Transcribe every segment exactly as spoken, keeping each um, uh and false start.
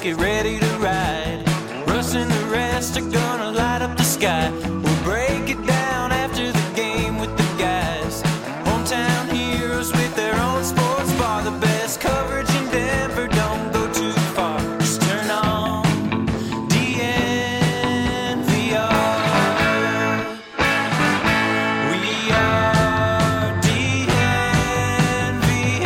get ready to ride. Russ and the rest are gonna light up the sky. We'll break it down after the game with the guys. Hometown heroes with their own sports bar. The best coverage in Denver, don't go too far. Just turn on D N V R. We are D N V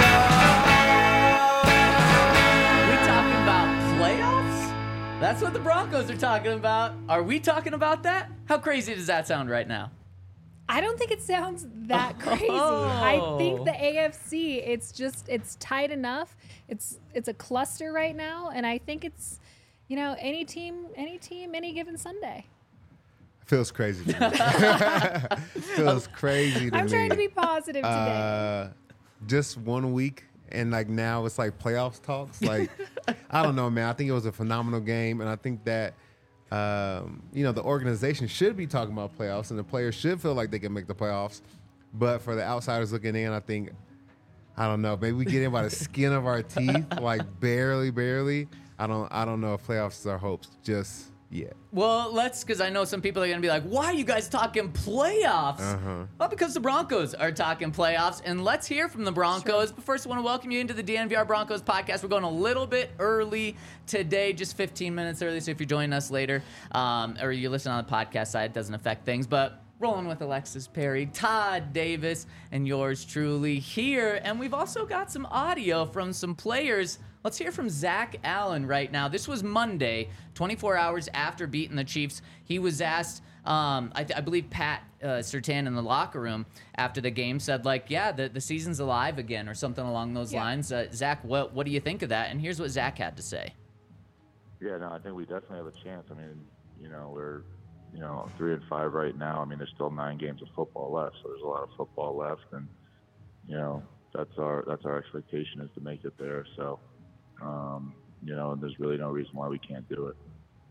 R. We talking about playoffs? That's what the Broncos are talking about. Are we talking about that? How crazy does that sound right now? I don't think it sounds that crazy. I think the A F C, it's just, it's tight enough. It's it's a cluster right now, and I think it's, you know, any team, any team, any given Sunday. Feels crazy to me. Feels crazy to I'm me. trying to be positive today. Uh, just one week, and like now it's like playoffs talks. Like, I don't know, man. I think it was a phenomenal game, and I think that Um, you know, the organization should be talking about playoffs, and the players should feel like they can make the playoffs. But for the outsiders looking in, I think, I don't know, maybe we get in by the skin of our teeth, like barely, barely. I don't, I don't know if playoffs are hopes just yet. Well, let's, because I know some people are going to be like, why are you guys talking playoffs? Uh-huh. Well, because the Broncos are talking playoffs, and let's hear from the Broncos. Sure. But first, I want to welcome you into the D N V R Broncos podcast. We're going a little bit early today, just fifteen minutes early, so if you're joining us later, um, or you're listening on the podcast side, it doesn't affect things, but rolling with Alexis Perry, Todd Davis, and yours truly here. And we've also got some audio from some players. Let's hear from Zach Allen right now. This was Monday, twenty-four hours after beating the Chiefs. He was asked, um, I, th- I believe Pat uh, Surtain in the locker room after the game said, like, yeah, the, the season's alive again or something along those Yeah. lines. Uh, Zach, what, what do you think of that? And here's what Zach had to say. Yeah, no, I think we definitely have a chance. I mean, you know, we're, you know, three and five right now. I mean, there's still nine games of football left, so there's a lot of football left, and you know, that's our that's our expectation is to make it there. So, um, you know, there's really no reason why we can't do it.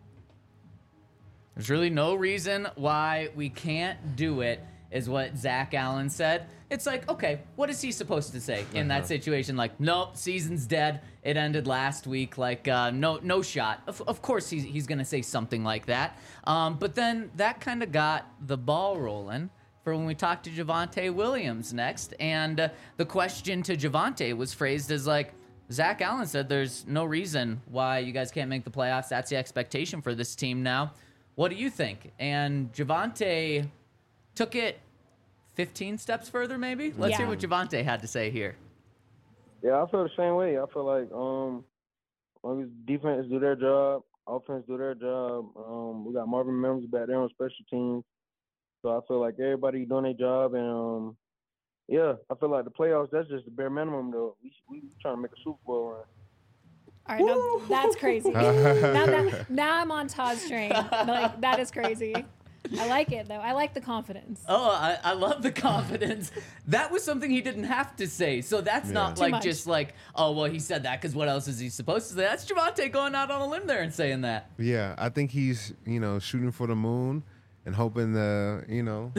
There's really no reason why we can't do it, is what Zach Allen said. It's like, okay, what is he supposed to say in that situation? Like, nope, season's dead. It ended last week. Like, uh, no, no shot. Of, of course, he's he's gonna say something like that. Um, but then that kind of got the ball rolling for when we talked to Javonte Williams next, and uh, the question to Javonte was phrased as like, Zach Allen said, "There's no reason why you guys can't make the playoffs. That's the expectation for this team now. What do you think?" And Javonte took it fifteen steps further, maybe. Let's Yeah. hear what Javonte had to say here. Yeah, I feel the same way. I feel like um, as long as defense do their job, offense do their job. Um, we got Marvin Mims back there on special teams, so I feel like everybody doing their job. And um, yeah, I feel like the playoffs, that's just the bare minimum, though. We we trying to make a Super Bowl run. All right, now, that's crazy. now, now, now I'm on Todd's train. Like, that is crazy. I like it, though. I like the confidence. Oh, I, I love the confidence. That was something he didn't have to say. So that's Yeah. not Too like much. just like, oh, well, he said that because what else is he supposed to say? That's Javonte going out on a limb there and saying that. Yeah, I think he's, you know, shooting for the moon and hoping to, you know,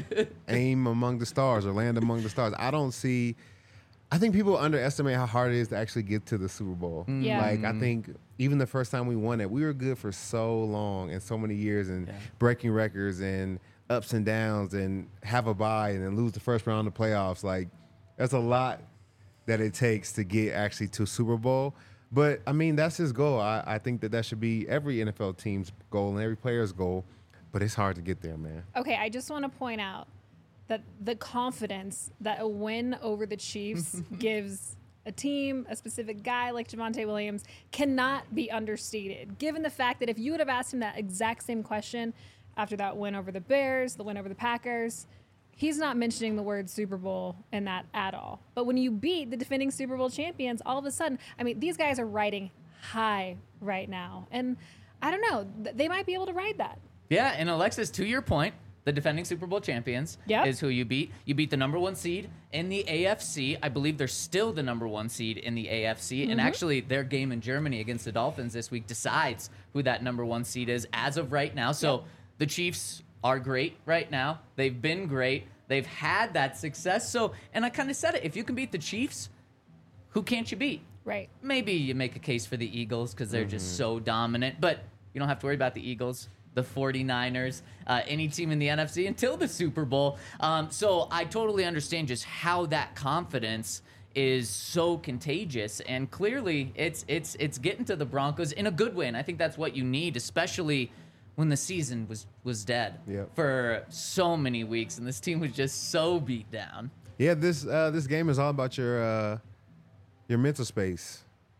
aim among the stars or land among the stars. I don't see. I think people underestimate how hard it is to actually get to the Super Bowl. Yeah. Like, I think even the first time we won it, we were good for so long and so many years and Yeah. breaking records and ups and downs and have a bye and then lose the first round of the playoffs. Like, there's a lot that it takes to get actually to Super Bowl. But, I mean, that's his goal. I, I think that that should be every N F L team's goal and every player's goal. But it's hard to get there, man. Okay, I just want to point out that the confidence that a win over the Chiefs gives a team, a specific guy like Javonte Williams, cannot be understated. Given the fact that if you would have asked him that exact same question after that win over the Bears, the win over the Packers, he's not mentioning the word Super Bowl in that at all. But when you beat the defending Super Bowl champions, all of a sudden, I mean, these guys are riding high right now. And I don't know, th- they might be able to ride that. Yeah, and Alexis, to your point, the defending Super Bowl champions Yep. is who you beat. You beat the number one seed in the A F C. I believe they're still the number one seed in the A F C. Mm-hmm. And actually, their game in Germany against the Dolphins this week decides who that number one seed is as of right now. So Yep. the Chiefs are great right now. They've been great. They've had that success. So, and I kind of said it, if you can beat the Chiefs, who can't you beat? Right. Maybe you make a case for the Eagles because they're just so dominant, but you don't have to worry about the Eagles, the 49ers, uh, any team in the N F C until the Super Bowl. Um, so I totally understand just how that confidence is so contagious, and clearly it's it's it's getting to the Broncos in a good way, and I think that's what you need, especially when the season was was dead Yep. for so many weeks, and this team was just so beat down. Yeah, this uh, this game is all about your uh, your mental space,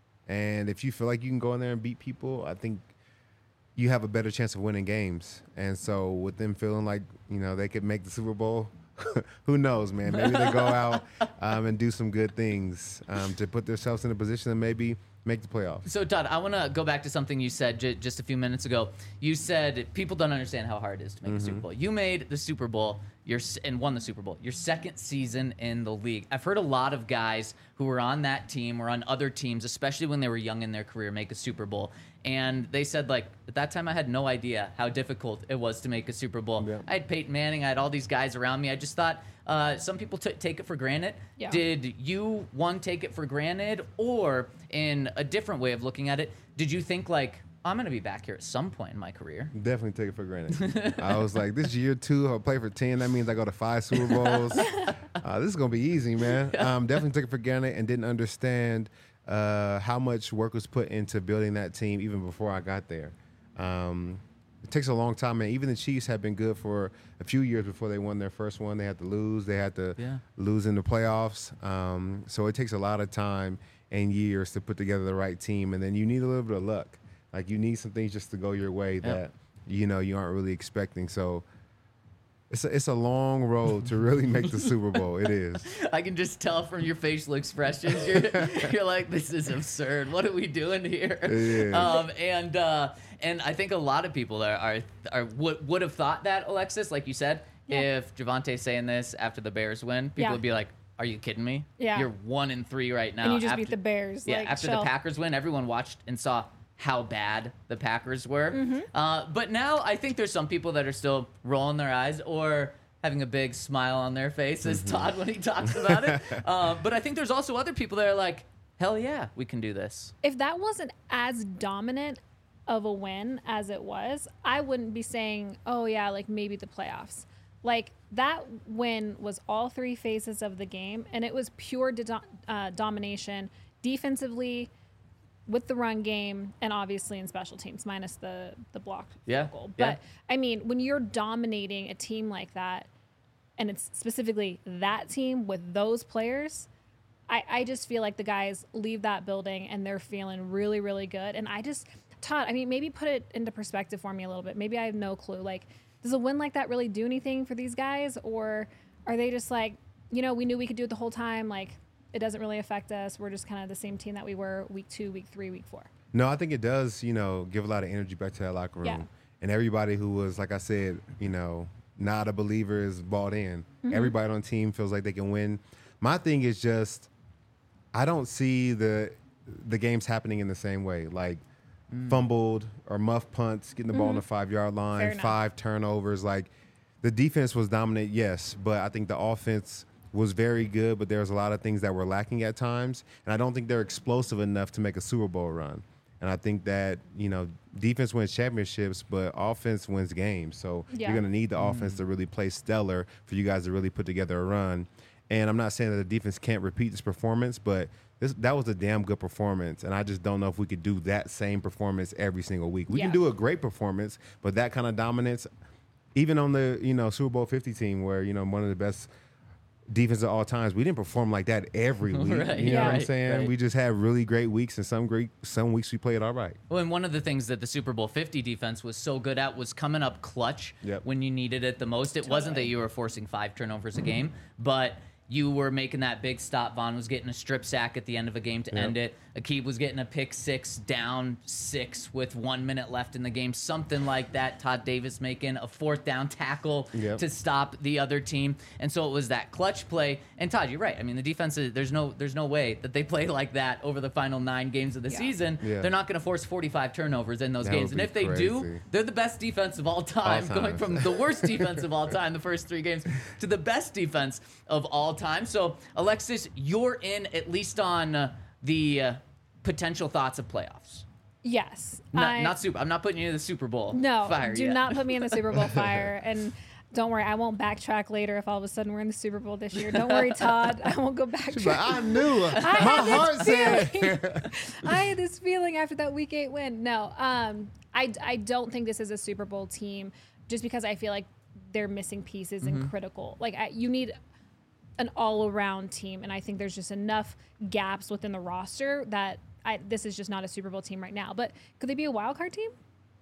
and if you feel like you can go in there and beat people, I think you have a better chance of winning games. And so, with them feeling like you know they could make the Super Bowl, who knows, man? Maybe they go out um, and do some good things um, to put themselves in a position to maybe make the playoffs. So, Todd, I want to go back to something you said j- just a few minutes ago. You said people don't understand how hard it is to make Mm-hmm. the Super Bowl. You made the Super Bowl your, s- and won the Super Bowl, your second season in the league. I've heard a lot of guys who were on that team or on other teams, especially when they were young in their career, make a Super Bowl. And they said, like, at that time, I had no idea how difficult it was to make a Super Bowl. Yeah. I had Peyton Manning. I had all these guys around me. I just thought uh, some people t- take it for granted. Yeah. Did you, one, take it for granted? Or in a different way of looking at it, did you think, like, I'm going to be back here at some point in my career? Definitely take it for granted. I was like, this year two, I'll play for ten. That means I go to five Super Bowls. Uh, this is going to be easy, man. Um, definitely took it for granted and didn't understand uh, how much work was put into building that team even before I got there. Um, it takes a long time, and even the Chiefs have been good for a few years before they won their first one. They had to lose. They had to Yeah. lose in the playoffs. Um, so it takes a lot of time and years to put together the right team, and then you need a little bit of luck. Like you need some things just to go your way that you know you aren't really expecting. So it's a, it's a long road to really make the Super Bowl. It is. I can just tell from your facial expressions. You're, you're like, this is absurd. What are we doing here? is. Um, and uh, and I think a lot of people are, are, are would, would have thought that, Alexis, like you said, Yeah. if Javonte saying this after the Bears win, people Yeah. would be like, are you kidding me? Yeah. You're one and three right now. And you just after, beat the Bears. Yeah, like, after chill. the Packers win, everyone watched and saw how bad the Packers were. Mm-hmm. Uh, but now I think there's some people that are still rolling their eyes or having a big smile on their face as Todd when he talks about it. Uh, but I think there's also other people that are like, hell yeah, we can do this. If that wasn't as dominant of a win as it was, I wouldn't be saying, oh yeah, like maybe the playoffs. Like that win was all three phases of the game, and it was pure do- uh, domination defensively, with the run game, and obviously in special teams, minus the the block Yeah, goal. yeah. But I mean, when you're dominating a team like that, and it's specifically that team with those players, I, I just feel like the guys leave that building and they're feeling really, really good. And I just, Todd, I mean, maybe put it into perspective for me a little bit. Maybe I have no clue. Like, does a win like that really do anything for these guys? Or are they just like, you know, we knew we could do it the whole time. Like, it doesn't really affect us. We're just kind of the same team that we were week two, week three, week four. No, I think it does, you know, give a lot of energy back to that locker room. Yeah. And everybody who was, like I said, you know, not a believer is bought in. Everybody on the team feels like they can win. My thing is just, I don't see the the games happening in the same way. Like fumbled or muff punts, getting the ball on the five yard Fair line, enough. five turnovers. Like the defense was dominant, yes, but I think the offense was very good, but there was a lot of things that were lacking at times. And I don't think they're explosive enough to make a Super Bowl run. And I think that, you know, defense wins championships, but offense wins games. So Yeah. you're going to need the offense to really play stellar for you guys to really put together a run. And I'm not saying that the defense can't repeat this performance, but this, that was a damn good performance. And I just don't know if we could do that same performance every single week. We Yeah. can do a great performance, but that kind of dominance, even on the, you know, Super Bowl fifty team where, you know, one of the best defense of all times, we didn't perform like that every week. Right, you know yeah. what I'm right, saying? right. We just had really great weeks, and some great some weeks we played all right. Well, and one of the things that the Super Bowl fifty defense was so good at was coming up clutch Yep. when you needed it the most. It wasn't that Totally. you were forcing five turnovers a game, but you were making that big stop. Vaughn was getting a strip sack at the end of a game to Yep. end it. Aqib was getting a pick six, down six with one minute left in the game, something like that. Todd Davis making a fourth down tackle Yep. to stop the other team, and so it was that clutch play. And Todd, you're right. I mean, the defense is, there's no there's no way that they play like that over the final nine games of the Yeah. season. Yeah. They're not going to force forty-five turnovers in those That games, would and be if they do, crazy. they're the best defense of all time, All going time. from the worst defense of all time the first three games to the best defense of all time. So, Alexis, you're in at least on uh, the uh, potential thoughts of playoffs. Yes. Not, I, not super. I'm not putting you in the Super Bowl No, fire do yet. not put me in the Super Bowl fire. And don't worry, I won't backtrack later if all of a sudden we're in the Super Bowl this year. Don't worry, Todd. I won't go back. She's like, I knew. I My had heart this said. feeling. I had this feeling after that Week Eight win. No, um, I I don't think this is a Super Bowl team, just because I feel like they're missing pieces Mm-hmm. and critical. Like I, you need an all-around team, and I think there's just enough gaps within the roster that I, this is just not a Super Bowl team right now. But could they be a wild card team?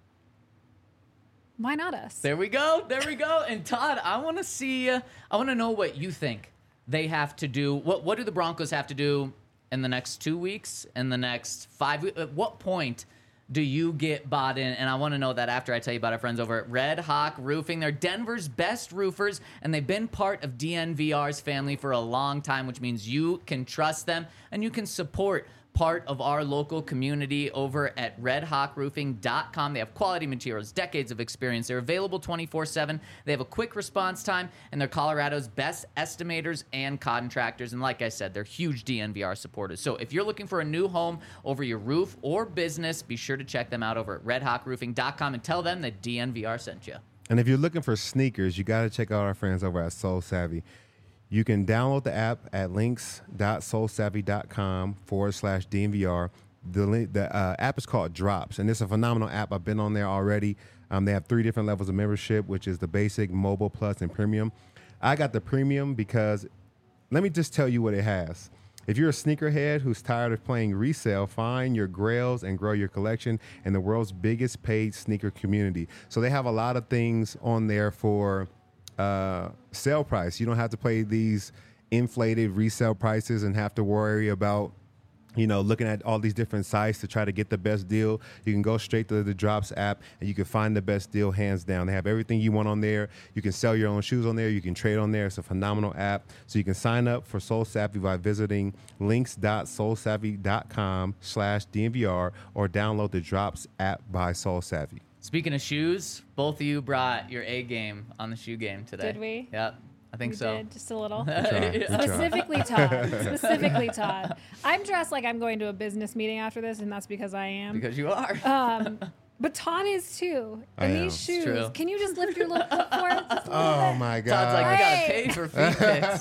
Why not us? There we go. There we go. And Todd, I want to see. Uh, I want to know what you think they have to do. What What do the Broncos have to do in the next two weeks? In the next five weeks? At what point do you get bought in? And I want to know that after I tell you about our friends over at Red Hawk Roofing. They're Denver's best roofers, and they've been part of D N V R's family for a long time, which means you can trust them and you can support part of our local community over at red hawk roofing dot com. They have quality materials, decades of experience. They're available twenty-four seven. They have a quick response time, and they're Colorado's best estimators and contractors. And like I said, they're huge D N V R supporters. So if you're looking for a new home over your roof or business, be sure to check them out over at red hawk roofing dot com and tell them that D N V R sent you. And if you're looking for sneakers, you got to check out our friends over at Soul Savvy. You can download the app at links.soulsavvy.com forward slash DNVR. The, link, the uh, app is called Drops, and it's a phenomenal app. I've been on there already. Um, they have three different levels of membership, which is the basic, mobile, plus, and premium. I got the premium because let me just tell you what it has. If you're a sneakerhead who's tired of playing resale, find your grails and grow your collection in the world's biggest paid sneaker community. So they have a lot of things on there for uh, sale price. You don't have to pay these inflated resale prices and have to worry about, you know, looking at all these different sites to try to get the best deal. You can go straight to the Drops app and you can find the best deal hands down. They have everything you want on there. You can sell your own shoes on there. You can trade on there. It's a phenomenal app. So you can sign up for Soul Savvy by visiting links.soulsavvy.com slash DNVR or download the Drops app by Soul Savvy. Speaking of shoes, both of you brought your A game on the shoe game today. Did we? Yep, I think We so. did, just a little. Try, we try. Specifically Todd. Specifically Todd. I'm dressed like I'm going to a business meeting after this, and that's because I am. Because you are. Um, but Todd is too. I And am. these It's shoes. true. Can you just lift your little foot for us? Just a little Oh, bit? my God. Todd's like, we gotta Hey. pay for feet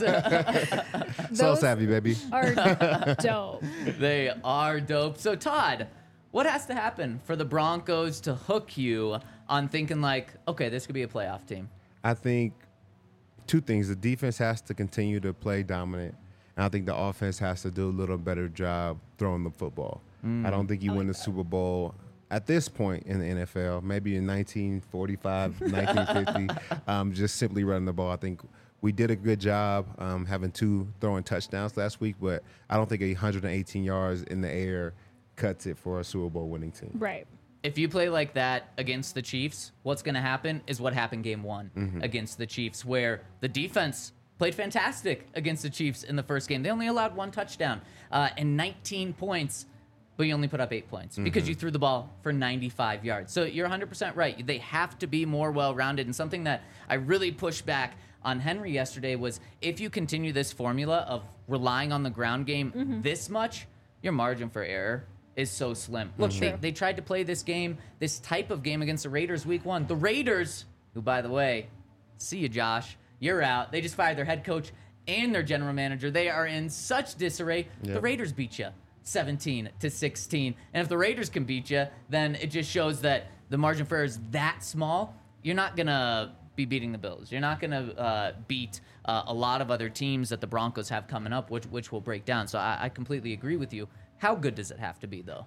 pics. Soul Those Savvy, baby. are dope. They are dope. So, Todd, what has to happen for the Broncos to hook you on thinking like, okay, this could be a playoff team? I think two things. The defense has to continue to play dominant, and I think the offense has to do a little better job throwing the football. I don't think you win the Super Bowl at this point in the N F L, maybe in nineteen forty-five, nineteen fifty, um, just simply running the ball. I think we did a good job um, having two throwing touchdowns last week, but I don't think one hundred eighteen yards in the air cuts it for a Super Bowl winning team. Right. If you play like that against the Chiefs, what's going to happen is what happened game one Mm-hmm. against the Chiefs, where the defense played fantastic against the Chiefs in the first game. They only allowed one touchdown uh, and nineteen points, but you only put up eight points because you threw the ball for ninety-five yards. So you're one hundred percent right. They have to be more well-rounded. And something that I really pushed back on Henry yesterday was if you continue this formula of relying on the ground game this much, your margin for error is so slim. Look, they, they tried to play this game, this type of game against the Raiders week one. The Raiders, who, by the way, see you, Josh, you're out. They just fired their head coach and their general manager. They are in such disarray. The Yep. Raiders beat you seventeen to sixteen. And if the Raiders can beat you, then it just shows that the margin for error is that small. You're not going to be beating the Bills. You're not going to uh, beat uh, a lot of other teams that the Broncos have coming up, which which will break down. So I, I completely agree with you. How good does it have to be, though?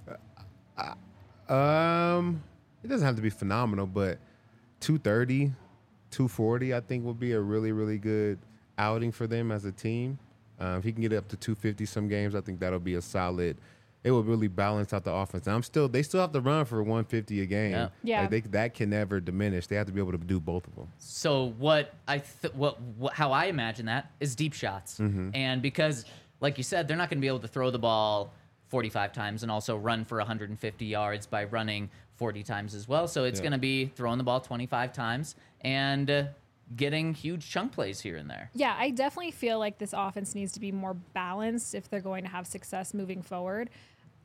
Um, it doesn't have to be phenomenal, but two thirty, two forty, I think will be a really, really good outing for them as a team. Uh, if he can get up to two fifty some games, I think that'll be a solid. It will really balance out the offense. And I'm still, they still have to run for one fifty a game. Yeah. Yeah. Like they, that can never diminish. They have to be able to do both of them. So what I th- what, what how I imagine that is deep shots, and because like you said, they're not going to be able to throw the ball forty-five times and also run for one hundred fifty yards by running forty times as well. So it's Yeah. going to be throwing the ball twenty-five times and uh, getting huge chunk plays here and there. Yeah, I definitely feel like this offense needs to be more balanced if they're going to have success moving forward.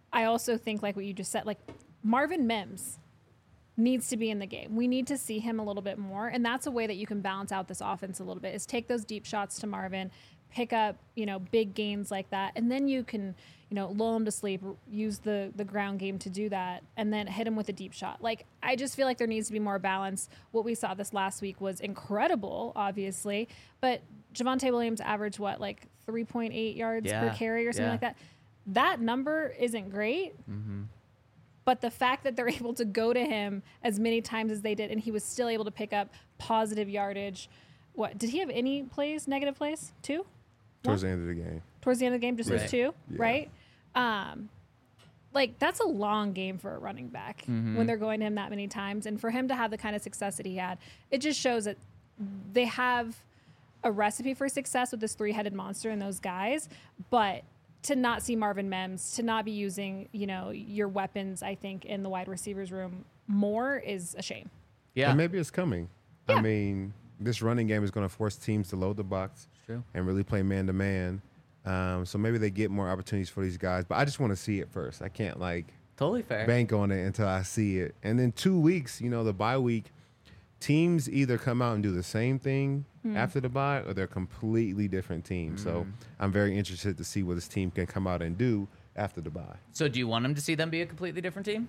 I also think, like what you just said, like Marvin Mims needs to be in the game. We need to see him a little bit more. And that's a way that you can balance out this offense a little bit, is take those deep shots to Marvin, pick up, you know, big gains like that. And then you can, you know, lull him to sleep, use the, the ground game to do that, and then hit him with a deep shot. Like, I just feel like there needs to be more balance. What we saw this last week was incredible, obviously. But Javonte Williams averaged, what, like three point eight yards Yeah, per carry or something yeah. like that. That number isn't great. Mm-hmm. But the fact that they're able to go to him as many times as they did, and he was still able to pick up positive yardage. What, did he have any plays, negative plays? Two? Towards the end of the game. Towards the end of the game, just Right. those two, Yeah. right? Um, like, that's a long game for a running back Mm-hmm. when they're going to him that many times. And for him to have the kind of success that he had, it just shows that they have a recipe for success with this three-headed monster and those guys. But to not see Marvin Mims, to not be using, you know, your weapons, I think, in the wide receivers room more is a shame. Yeah. And maybe it's coming. Yeah. I mean, this running game is going to force teams to load the box True. and really play man to man. Um, so maybe they get more opportunities for these guys. But I just want to see it first. I can't like Totally fair. bank on it until I see it. And then two weeks, you know, the bye week, teams either come out and do the same thing after the bye, or they're completely different teams. So I'm very interested to see what this team can come out and do after the bye. So do you want them to see them be a completely different team?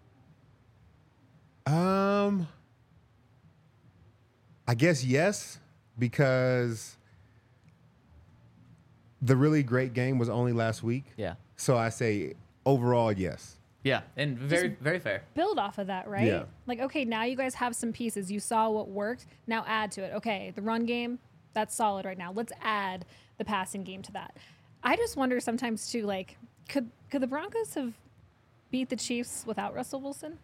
Um, I guess yes, because the really great game was only last week. Yeah. So I say overall yes. Yeah. And very, very fair. Build off of that, right? Yeah. Like, okay, now you guys have some pieces. You saw what worked. Now add to it. Okay, the run game, that's solid right now. Let's add the passing game to that. I just wonder sometimes too, like, could could the Broncos have beat the Chiefs without Russell Wilson?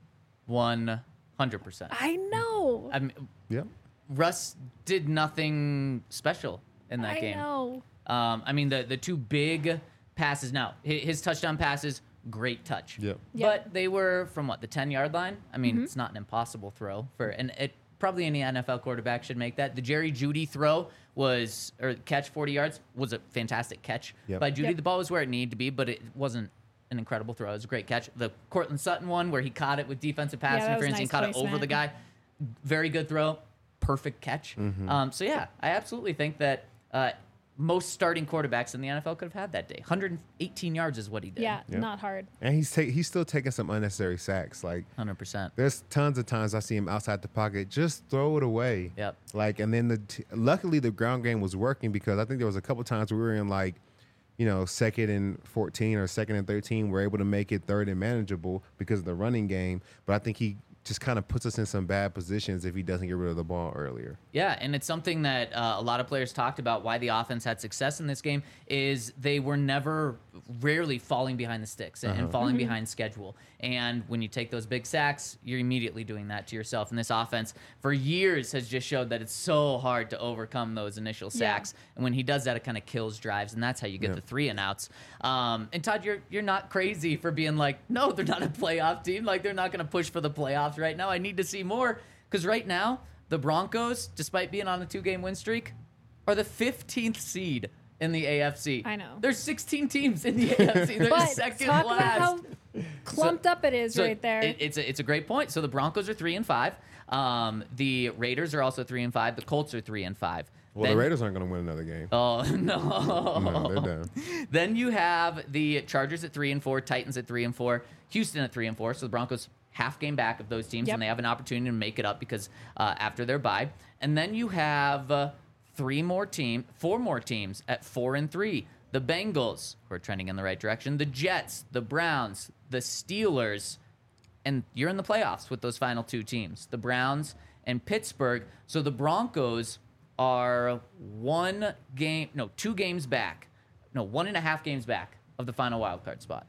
one hundred percent. I know. I mean, Yep. Russ did nothing special in that I game. know. Um, I mean, the the two big passes. Now, hi- his touchdown passes, great touch. Yep. Yep. But they were from what, the ten yard line? I mean, it's not an impossible throw for, and it probably any N F L quarterback should make that. The Jerry Jeudy throw was, or catch forty yards, was a fantastic catch Yep. by Jeudy. Yep. The ball was where it needed to be, but it wasn't an incredible throw. It was a great catch. The Cortland Sutton one where he caught it with defensive pass Yeah, that was interference and nice caught it over placement. the guy. Very good throw. Perfect catch. Mm-hmm. Um, so, yeah, I absolutely think that uh, most starting quarterbacks in the N F L could have had that day. one hundred eighteen yards is what he did. Yeah, Yep. not hard. And he's ta- he's still taking some unnecessary sacks. Like one hundred percent. there's tons of times I see him outside the pocket, just throw it away. Yep. Like, and then the t- luckily the ground game was working, because I think there was a couple times we were in like, you know, second and fourteen or second and thirteen. We're able to make it third and manageable because of the running game. But I think he just kind of puts us in some bad positions if he doesn't get rid of the ball earlier. Yeah, and it's something that uh, a lot of players talked about why the offense had success in this game is they were never, rarely falling behind the sticks and, and falling behind schedule. And when you take those big sacks, you're immediately doing that to yourself. And this offense, for years, has just showed that it's so hard to overcome those initial Yeah. sacks. And when he does that, it kind of kills drives, and that's how you get Yeah. the three and outs. Um, and Todd, you're you're not crazy for being like, no, they're not a playoff team. Like, they're not going to push for the playoffs right now. I need to see more, because right now the Broncos, despite being on a two-game win streak, are the fifteenth seed in the A F C. I know. There's sixteen teams in the A F C. They're But second talk last. about how clumped up it is So right there. it- it's a, it's a great point. So the Broncos are three and five. Um, the Raiders are also three and five. The Colts are three and five. Well, Then- the Raiders aren't going to win another game. Oh no! No, they're done. Then you have the Chargers at three and four, Titans at three and four, Houston at three and four. So the Broncos half game back of those teams, Yep. and they have an opportunity to make it up because uh, after their bye. And then you have uh, three more team, four more teams at four and three. The Bengals, who are trending in the right direction. The Jets, the Browns, the Steelers, and you're in the playoffs with those final two teams, the Browns and Pittsburgh. So the Broncos are one game, no, two games back, no, one and a half games back of the final wild card spot,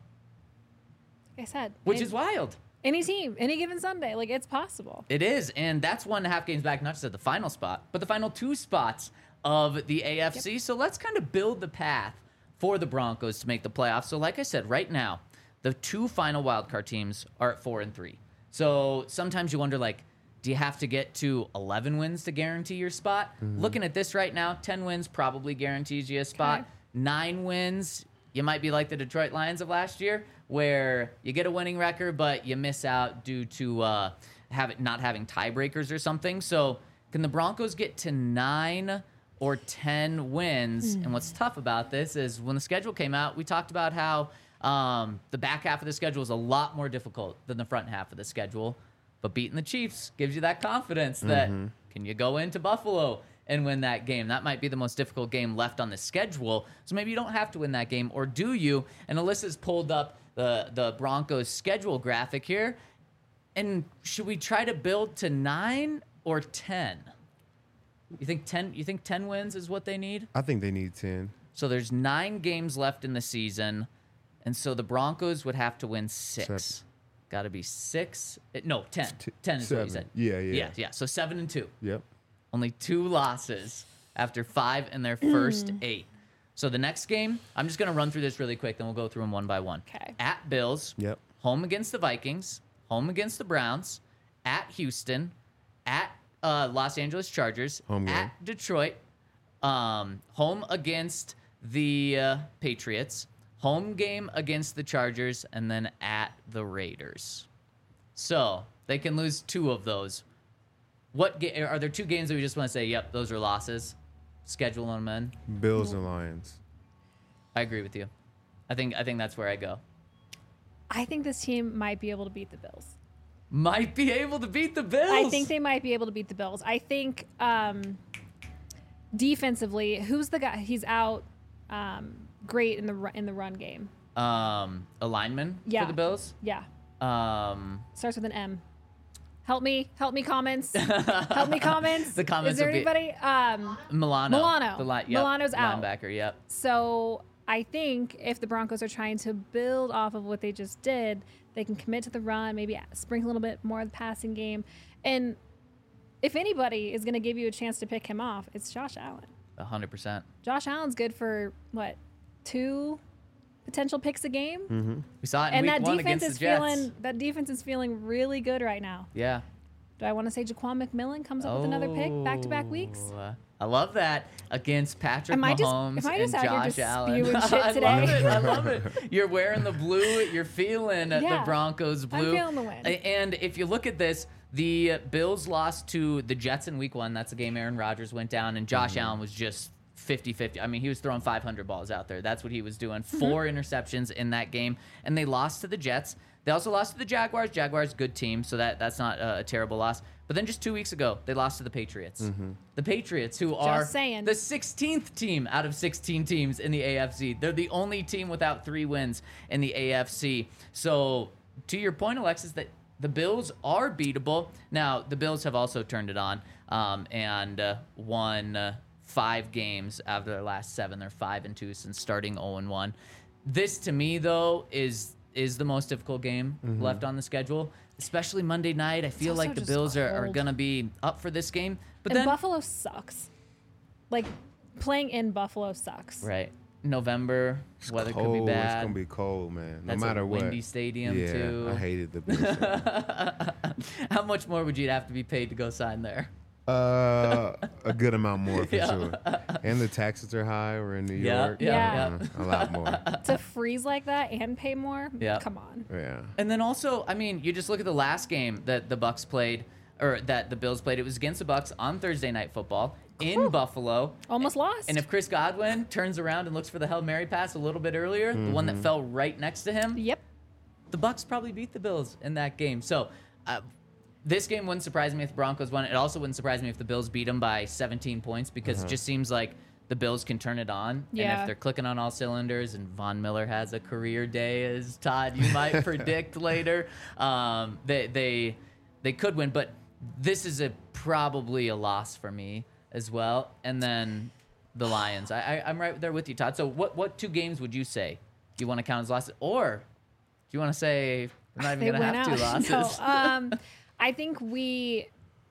like I said, which it- is wild. any team, any given Sunday, like it's possible. It is, and that's one and a half games back, not just at the final spot, but the final two spots of the A F C. So let's kind of build the path for the Broncos to make the playoffs. So like I said, right now, the two final wildcard teams are at four and three. So sometimes you wonder, like, do you have to get to eleven wins to guarantee your spot? Looking at this right now, ten wins probably guarantees you a spot. Okay. Nine wins, you might be like the Detroit Lions of last year, where you get a winning record, but you miss out due to uh, have it not having tiebreakers or something. So can the Broncos get to nine or ten wins? And what's tough about this is when the schedule came out, we talked about how um, the back half of the schedule is a lot more difficult than the front half of the schedule. But beating the Chiefs gives you that confidence that can you go into Buffalo and win that game? That might be the most difficult game left on the schedule. So maybe you don't have to win that game, or do you? And Alyssa's pulled up the, the Broncos schedule graphic here. And should we try to build to nine or ten? You think ten you think ten wins is what they need? I think they need ten. So there's nine games left in the season, and so the Broncos would have to win six. Seven. Got to be six. eh, No, ten. T- ten is what you seven. said. Yeah, yeah. Yeah, yeah. So seven and two. Yep. Only two losses after five in their first eight. So the next game, I'm just going to run through this really quick, then we'll go through them one by one. Okay. At Bills, Yep. home against the Vikings, home against the Browns, at Houston, at uh, Los Angeles Chargers, Home game. at Detroit, um, home against the uh, Patriots, home game against the Chargers, and then at the Raiders. So they can lose two of those. What ga- are there two games that we just want to say, yep, those are losses? Schedule them in. Bills and Lions. I agree with you. I think I think that's where I go. I think this team might be able to beat the Bills. Might be able to beat the Bills. I think they might be able to beat the Bills. I think um, defensively, who's the guy? He's out. Um, great in the ru- in the run game. um a lineman Yeah. for the Bills. Yeah, Um, starts with an M. Help me, help me, comments. Help me, comments. The comments Is there will be- anybody? Um, Milano. Milano. The li- yep, Milano's out. Linebacker. Yep. so I think if the Broncos are trying to build off of what they just did, they can commit to the run, maybe sprinkle a little bit more of the passing game, and if anybody is going to give you a chance to pick him off, it's Josh Allen. A hundred percent. Josh Allen's good for what, two potential picks a game, Mm-hmm. We saw it in and week that one defense against is the Jets. feeling that defense is feeling really good right now. Yeah. Do I want to say Jaquan McMillan comes up with another pick back to back weeks? Oh, I love that against Patrick Am I just- Mahomes am I just and out here Josh just Allen. spewing shit I today? love it. I love it. You're wearing the blue. You're feeling the Yeah, Broncos blue. I'm feeling the win. And if you look at this, the Bills lost to the Jets in week one. That's the game Aaron Rodgers went down, and Josh Allen was just fifty-fifty. I mean, he was throwing five hundred balls out there. That's what he was doing. Mm-hmm. Four interceptions in that game, and they lost to the Jets. They also lost to the Jaguars. Jaguars, good team, so that that's not a, a terrible loss. But then just two weeks ago, they lost to the Patriots. The Patriots, who are saying. the sixteenth team out of sixteen teams in the A F C. They're the only team without three wins in the A F C. So to your point, Alexis, that the Bills are beatable. Now, the Bills have also turned it on um, and uh, won uh, five games out of their last seven. They're five and two since starting oh and one. This, to me, though, is is the most difficult game left on the schedule, especially Monday night. I feel also like the just Bills are, are cold. going to be up for this game. But And then, Buffalo sucks. Like, playing in Buffalo sucks. right, November, weather could be Cold. bad. It's gonna be cold, man. No That's a matter what. windy stadium, yeah, too. I hated the Bills. How much more would you have to be paid to go sign there? uh, a good amount more for Yeah. sure. And the taxes are high. We're in New Yeah, York. yeah, Uh, a lot more. To freeze like that and pay more? Yeah. Come on. Yeah. And then also, I mean, you just look at the last game that the Bucks played, or that the Bills played. It was against the Bucks on Thursday Night Football in Buffalo. Almost lost. And if Chris Godwin turns around and looks for the Hail Mary pass a little bit earlier, the one that fell right next to him, Yep. the Bucks probably beat the Bills in that game. So uh, this game wouldn't surprise me if the Broncos won. It also wouldn't surprise me if the Bills beat them by seventeen points, because it just seems like the Bills can turn it on. And Yeah. if they're clicking on all cylinders and Von Miller has a career day, as Todd, you might predict later, um, they, they, they could win. But this is a probably a loss for me as well. And then the Lions. I, I, I'm right there with you, Todd. So what, what two games would you say you want to count as losses? Or do you want to say we're not They even going to went have two out. losses? No, um, I think we.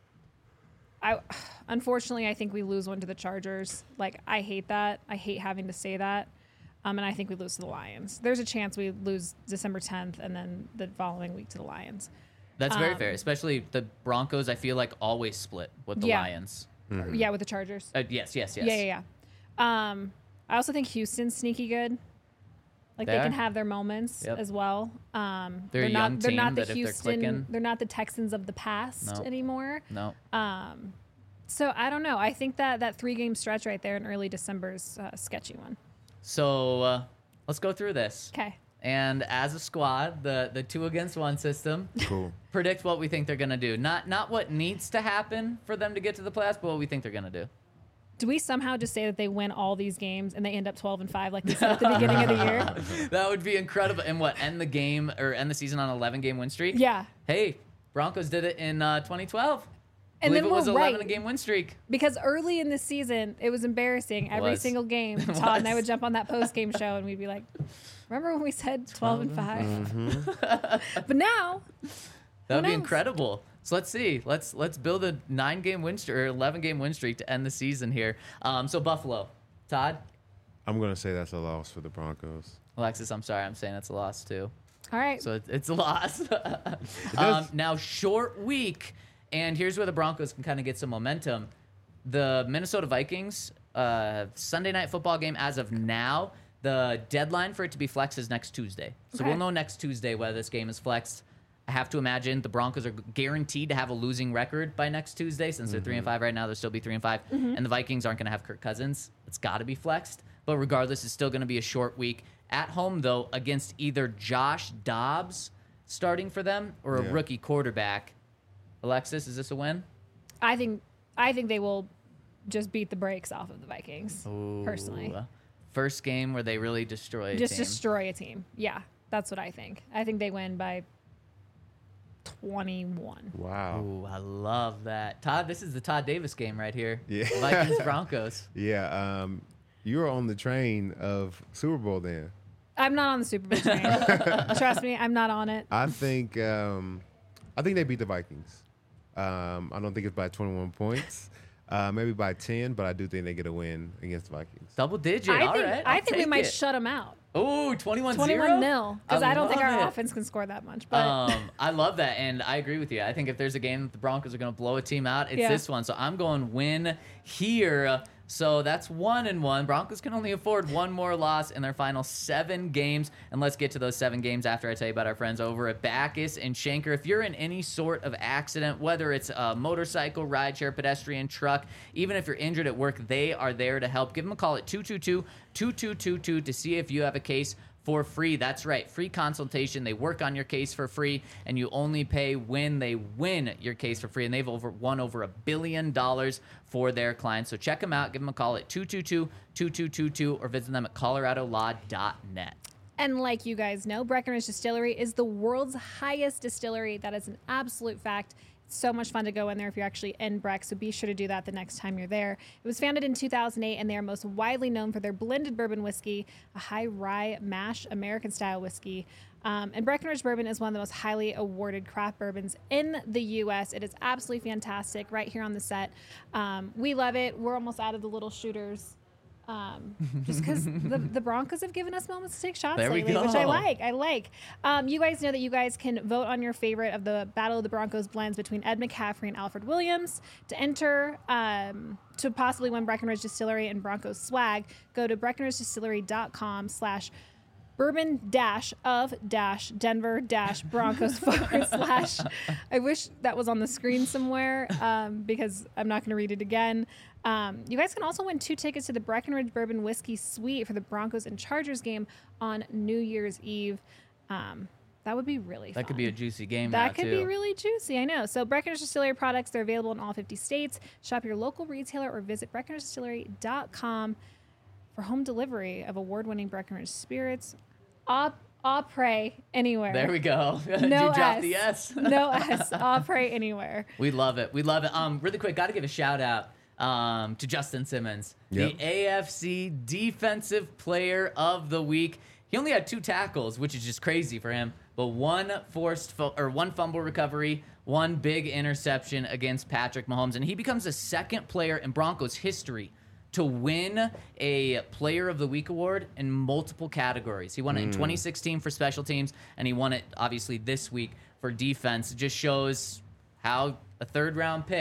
I unfortunately I think we lose one to the Chargers. Like, I hate that. I hate having to say that. Um, and I think we lose to the Lions. There's a chance we lose December tenth and then the following week to the Lions. That's very um, fair. Especially the Broncos, I feel like always split with the Yeah. Lions. Yeah, with the Chargers. Uh, yes, yes, yes. Yeah, yeah, yeah. Um, I also think Houston's sneaky good. Like They they can are. have their moments Yep. as well. Um, They're a not. young they're not team the that if they're Houston. clicking- They're not the Texans of the past No. anymore. No. Um, so I don't know. I think that that three game stretch right there in early December is a sketchy one. So uh, let's go through this. Okay. And as a squad, the the two against one system, Cool. predict what we think they're gonna do. Not not what needs to happen for them to get to the playoffs, but what we think they're gonna do. Do we somehow just say that they win all these games and they end up twelve and five like they said at the beginning of the year? That would be incredible. And what, end the game or end the season on an eleven game win streak? Yeah. Hey, Broncos did it in uh, twenty twelve. And believe then it was we're eleven right. game win streak. Because early in the season, it was embarrassing. Every was. single game, It Todd and I was. would jump on that post game show and we'd be like, "Remember when we said twelve and five?" Mm-hmm. But now, That would Who be knows? incredible. So let's see. Let's let's build a nine game win streak or eleven game win streak to end the season here. Um, so Buffalo, Todd, I'm gonna say that's a loss for the Broncos. Alexis, I'm sorry, I'm saying it's a loss too. all right. So it, it's a loss. um, does- now short week, and here's where the Broncos can kind of get some momentum. The Minnesota Vikings uh, Sunday night football game as of now. The deadline for it to be flexed is next Tuesday. So Okay. we'll know next Tuesday whether this game is flexed. I have to imagine the Broncos are guaranteed to have a losing record by next Tuesday since they're three and five right now. They'll still be three and five, and the Vikings aren't going to have Kirk Cousins. It's got to be flexed. But regardless, it's still going to be a short week at home though against either Josh Dobbs starting for them or a Yeah. rookie quarterback. Alexis, is this a win? I think I think they will just beat the brakes off of the Vikings. Personally, Ooh. First game where they really destroy a just team. destroy a team. Yeah, that's what I think. I think they win by twenty-one. Wow. Ooh, I love that. Todd, this is the Todd Davis game right here. Yeah. Vikings Broncos. Yeah. Um, you were on the train of Super Bowl then. I'm not on the Super Bowl train. Trust me, I'm not on it. I think um, I think they beat the Vikings. Um, I don't think it's by twenty-one points. Uh, maybe by ten, but I do think they get a win against the Vikings. Double digit. I All think right. I I'll think we take might it. shut them out. Ooh, twenty-one zero? twenty-one nil because I, don't think love our it. offense can score that much. But Um, I love that, and I agree with you. I think if there's a game that the Broncos are going to blow a team out, it's Yeah. this one. So I'm going win here. So that's one and one. Broncos can only afford one more loss in their final seven games. And let's get to those seven games after I tell you about our friends over at Backus and Schenker. If you're in any sort of accident, whether it's a motorcycle, rideshare, pedestrian, truck, even if you're injured at work, they are there to help. Give them a call at two two two, two two two two to see if you have a case for free. That's right, free consultation. They work on your case for free, and you only pay when they win your case for free. And they've over won over a billion dollars for their clients. So check them out. Give them a call at two two two, two two two two or visit them at colorado law dot net. And like you guys know, Breckenridge Distillery is the world's highest distillery. That is an absolute fact. It's so much fun to go in there if you're actually in Breck, so be sure to do that the next time you're there. It was founded in two thousand eight, and they are most widely known for their blended bourbon whiskey, a high rye mash American-style whiskey. Um, and Breckenridge Bourbon is one of the most highly awarded craft bourbons in the U S. It is absolutely fantastic right here on the set. Um, we love it. We're almost out of the little shooters. Um, just because the, the Broncos have given us moments to take shots There we lately, which I go. like. I like. Um, you guys know that you guys can vote on your favorite of the Battle of the Broncos blends between Ed McCaffrey and Alfred Williams. To enter, um, to possibly win Breckenridge Distillery and Broncos swag, go to breckenridge distillery dot com slash bourbon dash of dash Denver dash Broncos forward slash. I wish that was on the screen somewhere um, because I'm not going to read it again. Um, you guys can also win two tickets to the Breckenridge Bourbon Whiskey Suite for the Broncos and Chargers game on New Year's Eve. Um, that would be really fun. That could be a juicy game That now, could too. be really juicy, I know. So Breckenridge Distillery products, they're available in all fifty states. Shop your local retailer or visit breckenridge distillery dot com for home delivery of award-winning Breckenridge spirits. Au, au pray anywhere. There we go. Did No you drop S. the S? No S. Au pray anywhere. We love it. We love it. Um, really quick, got to give a shout out um, to Justin Simmons, Yep. the A F C Defensive Player of the Week. He only had two tackles, which is just crazy for him, but one forced fu- or one fumble recovery, one big interception against Patrick Mahomes, and he becomes the second player in Broncos history to win a Player of the Week award in multiple categories. He won it in twenty sixteen for special teams, and he won it obviously this week for defense. It just shows how a third round pick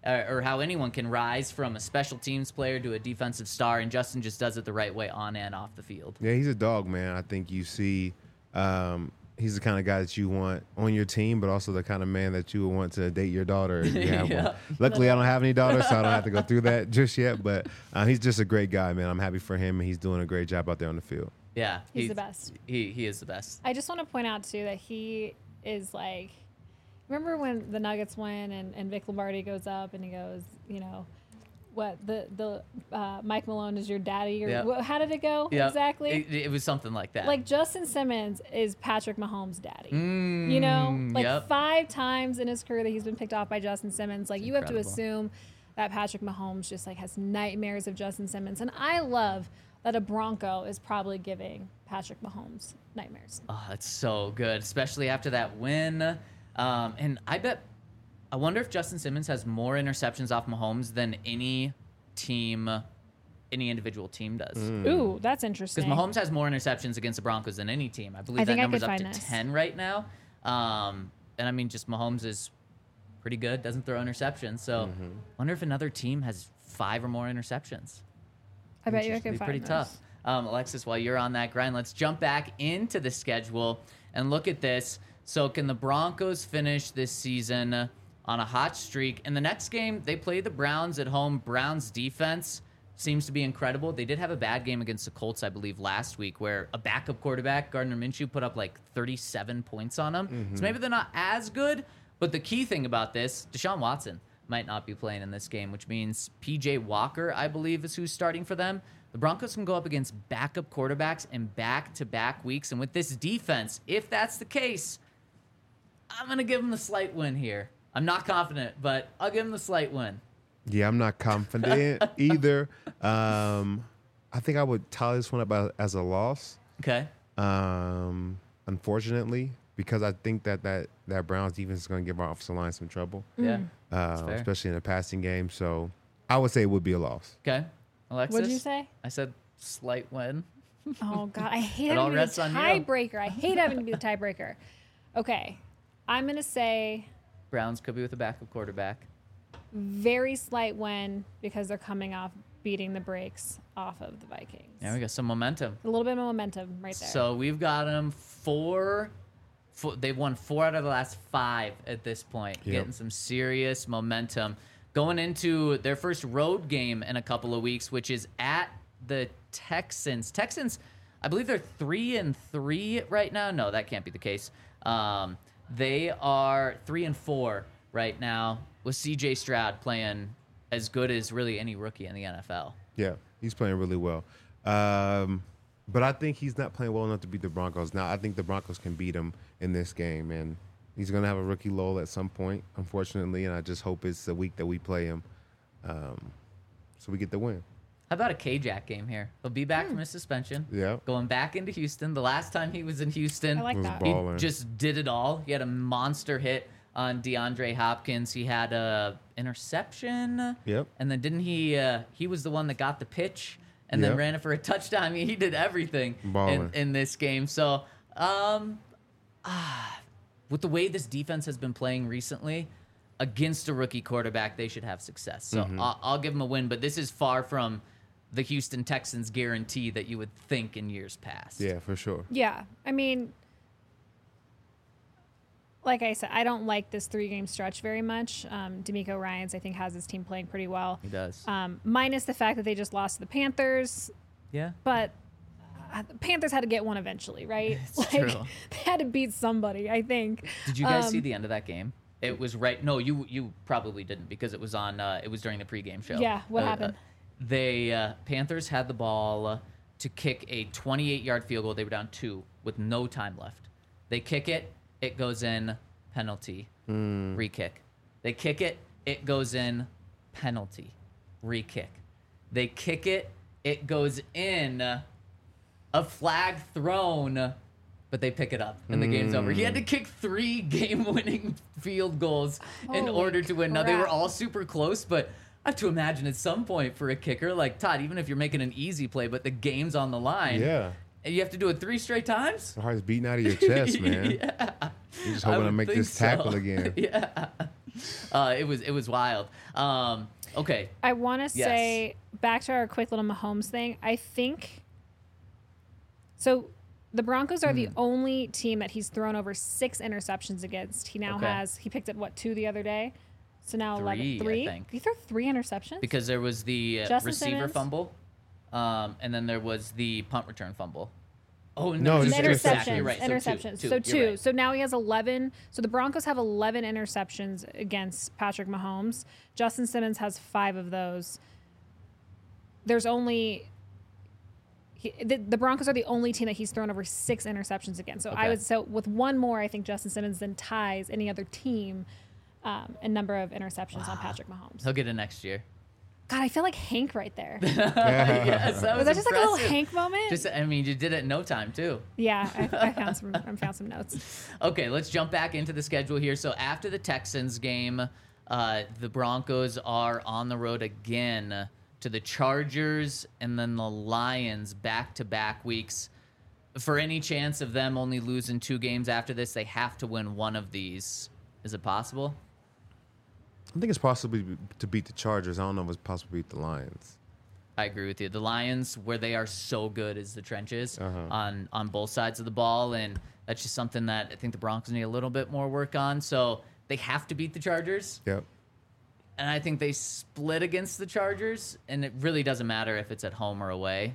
uh, or how anyone can rise from a special teams player to a defensive star, and Justin just does it the right way on and off the field. Yeah, he's a dog, man. I think you see um, he's the kind of guy that you want on your team, but also the kind of man that you would want to date your daughter if you have Yeah. one. Luckily, I don't have any daughters, so I don't have to go through that just yet. But uh, he's just a great guy, man. I'm happy for him, and he's doing a great job out there on the field. Yeah, He's the best. He he is the best. I just want to point out too that he is like, remember when the Nuggets win and, and Vic Lombardi goes up and he goes, you know, what the the uh, Mike Malone is your daddy or Yep. wh- how did it go Yeah, exactly? It, it was something like that. Like Justin Simmons is Patrick Mahomes' daddy. Mm, You know, like yep. five times in his career that he's been picked off by Justin Simmons. Like you have to incredible. assume that Patrick Mahomes just like has nightmares of Justin Simmons, and I love that a Bronco is probably giving Patrick Mahomes nightmares. Oh, that's so good, especially after that win. Um, and I bet, I wonder if Justin Simmons has more interceptions off Mahomes than any team, any individual team does. Ooh, that's interesting. Because Mahomes has more interceptions against the Broncos than any team. I believe I that think I number's could up to find this. ten right now. Um, and I mean, just Mahomes is pretty good, doesn't throw interceptions. So Mm-hmm. wonder if another team has five or more interceptions. I bet you I It'd could be find pretty those. tough. Um, Alexis, while you're on that grind, let's jump back into the schedule and look at this. So can the Broncos finish this season on a hot streak? In the next game, they play the Browns at home. Browns defense seems to be incredible. They did have a bad game against the Colts, I believe, last week, where a backup quarterback, Gardner Minshew, put up like thirty-seven points on them. Mm-hmm. So maybe they're not as good, but the key thing about this, Deshaun Watson might not be playing in this game, which means P J Walker, I believe, is who's starting for them. The Broncos can go up against backup quarterbacks in back-to-back weeks. And with this defense, if that's the case, I'm going to give them the slight win here. I'm not confident, but I'll give them the slight win. Yeah, I'm not confident either. Um, I think I would tally this one up as a loss. Okay. Um, unfortunately, because I think that that, that Browns defense is going to give our offensive line some trouble, Yeah. uh, fair. especially in a passing game. So I would say it would be a loss. Okay. Alexis? What'd you say? I said slight win. Oh God, I hate It all having to be rests the on you. tiebreaker. I hate having to be the tiebreaker. Okay, I'm gonna say Browns could be with a backup quarterback. very slight win because they're coming off beating the brakes off of the Vikings. Yeah, we got some momentum. A little bit of momentum right there. So we've got them four, four. They've won four out of the last five at this point, Yep. getting some serious momentum. Going into their first road game in a couple of weeks, which is at the Texans. Texans, I believe they're three and three right now. No, that can't be the case. Um, they are three and four right now with C J Stroud playing as good as really any rookie in the N F L. Yeah, he's playing really well. Um, but I think he's not playing well enough to beat the Broncos. Now, I think the Broncos can beat him in this game, and he's going to have a rookie lull at some point, unfortunately, and I just hope it's the week that we play him um, so we get the win. How about a K-Jack game here? He'll be back from his suspension. Yeah. Going back into Houston. The last time he was in Houston, I like Was that. he balling. just did it all. He had a monster hit on DeAndre Hopkins. He had a interception. Yep. And then didn't he? Uh, he was the one that got the pitch and then Yep. ran it for a touchdown. I mean, he did everything in, Balling. in this game. So, um, ah, with the way this defense has been playing recently, against a rookie quarterback, they should have success. So Mm-hmm. I'll, I'll give them a win. But this is far from the Houston Texans guarantee that you would think in years past. Yeah, for sure. Yeah, I mean, like I said, I don't like this three-game stretch very much. Um, D'Amico Ryans, I think, has his team playing pretty well. He does. Um, minus the fact that they just lost to the Panthers, yeah. but uh, the Panthers had to get one eventually, right? It's like true. they had to beat somebody, I think. Did you guys Um, see the end of that game? It was right. No, you you probably didn't because it was on. Uh, it was during the pregame show. Yeah, what Uh, happened? Uh, they uh, Panthers had the ball uh, to kick a twenty-eight yard field goal. They were down two with no time left. They kick it. It goes in. Penalty. Re-kick. They kick it. It goes in. Penalty. Re-kick. They kick it. It goes in. A flag thrown. But they pick it up and the game's over. He had to kick three game-winning field goals in Holy order to win. Now, they were crap. all super close, but I have to imagine at some point for a kicker, like Todd, even if you're making an easy play, but the game's on the line, Yeah. and you have to do it three straight times? The heart's beating out of your chest, man. Yeah. You're just I hoping to would make think this tackle so. again. Yeah. uh, it was it was wild. Um, okay, I want to Yes. say back to our quick little Mahomes thing. I think so. The Broncos are the Hmm. only team that he's thrown over six interceptions against. He now Okay. has he picked up what two the other day, so now Three, I eleven. Three. think. He threw three interceptions because there was the uh, Justin receiver Simmons? fumble, um, and then there was the punt return fumble. Oh No, no, just And interceptions. interceptions. You're right. So two, interceptions. two, So you're two. right. So now he has eleven. So the Broncos have eleven interceptions against Patrick Mahomes. Justin Simmons has five of those. There's only he, the, the Broncos are the only team that he's thrown over six interceptions against. So I Okay. would so with one more, I think Justin Simmons then ties any other team um, in number of interceptions on Patrick Mahomes. He'll get it next year. God, I feel like Hank right there. Yes, that Was was that just like a little impressive. Hank moment? Just, I mean, you did it in no time too. yeah, I, I found some. I found some notes. Okay, let's jump back into the schedule here. So after the Texans game, uh, the Broncos are on the road again to the Chargers and then the Lions back-to-back weeks. For any chance of them only losing two games after this, they have to win one of these. Is it possible? I think it's possible to beat the Chargers. I don't know if it's possible to beat the Lions. I agree with you. The Lions, where they are so good, is the trenches Uh-huh. on on both sides of the ball, and that's just something that I think the Broncos need a little bit more work on. So they have to beat the Chargers. Yep. And I think they split against the Chargers, and it really doesn't matter if it's at home or away.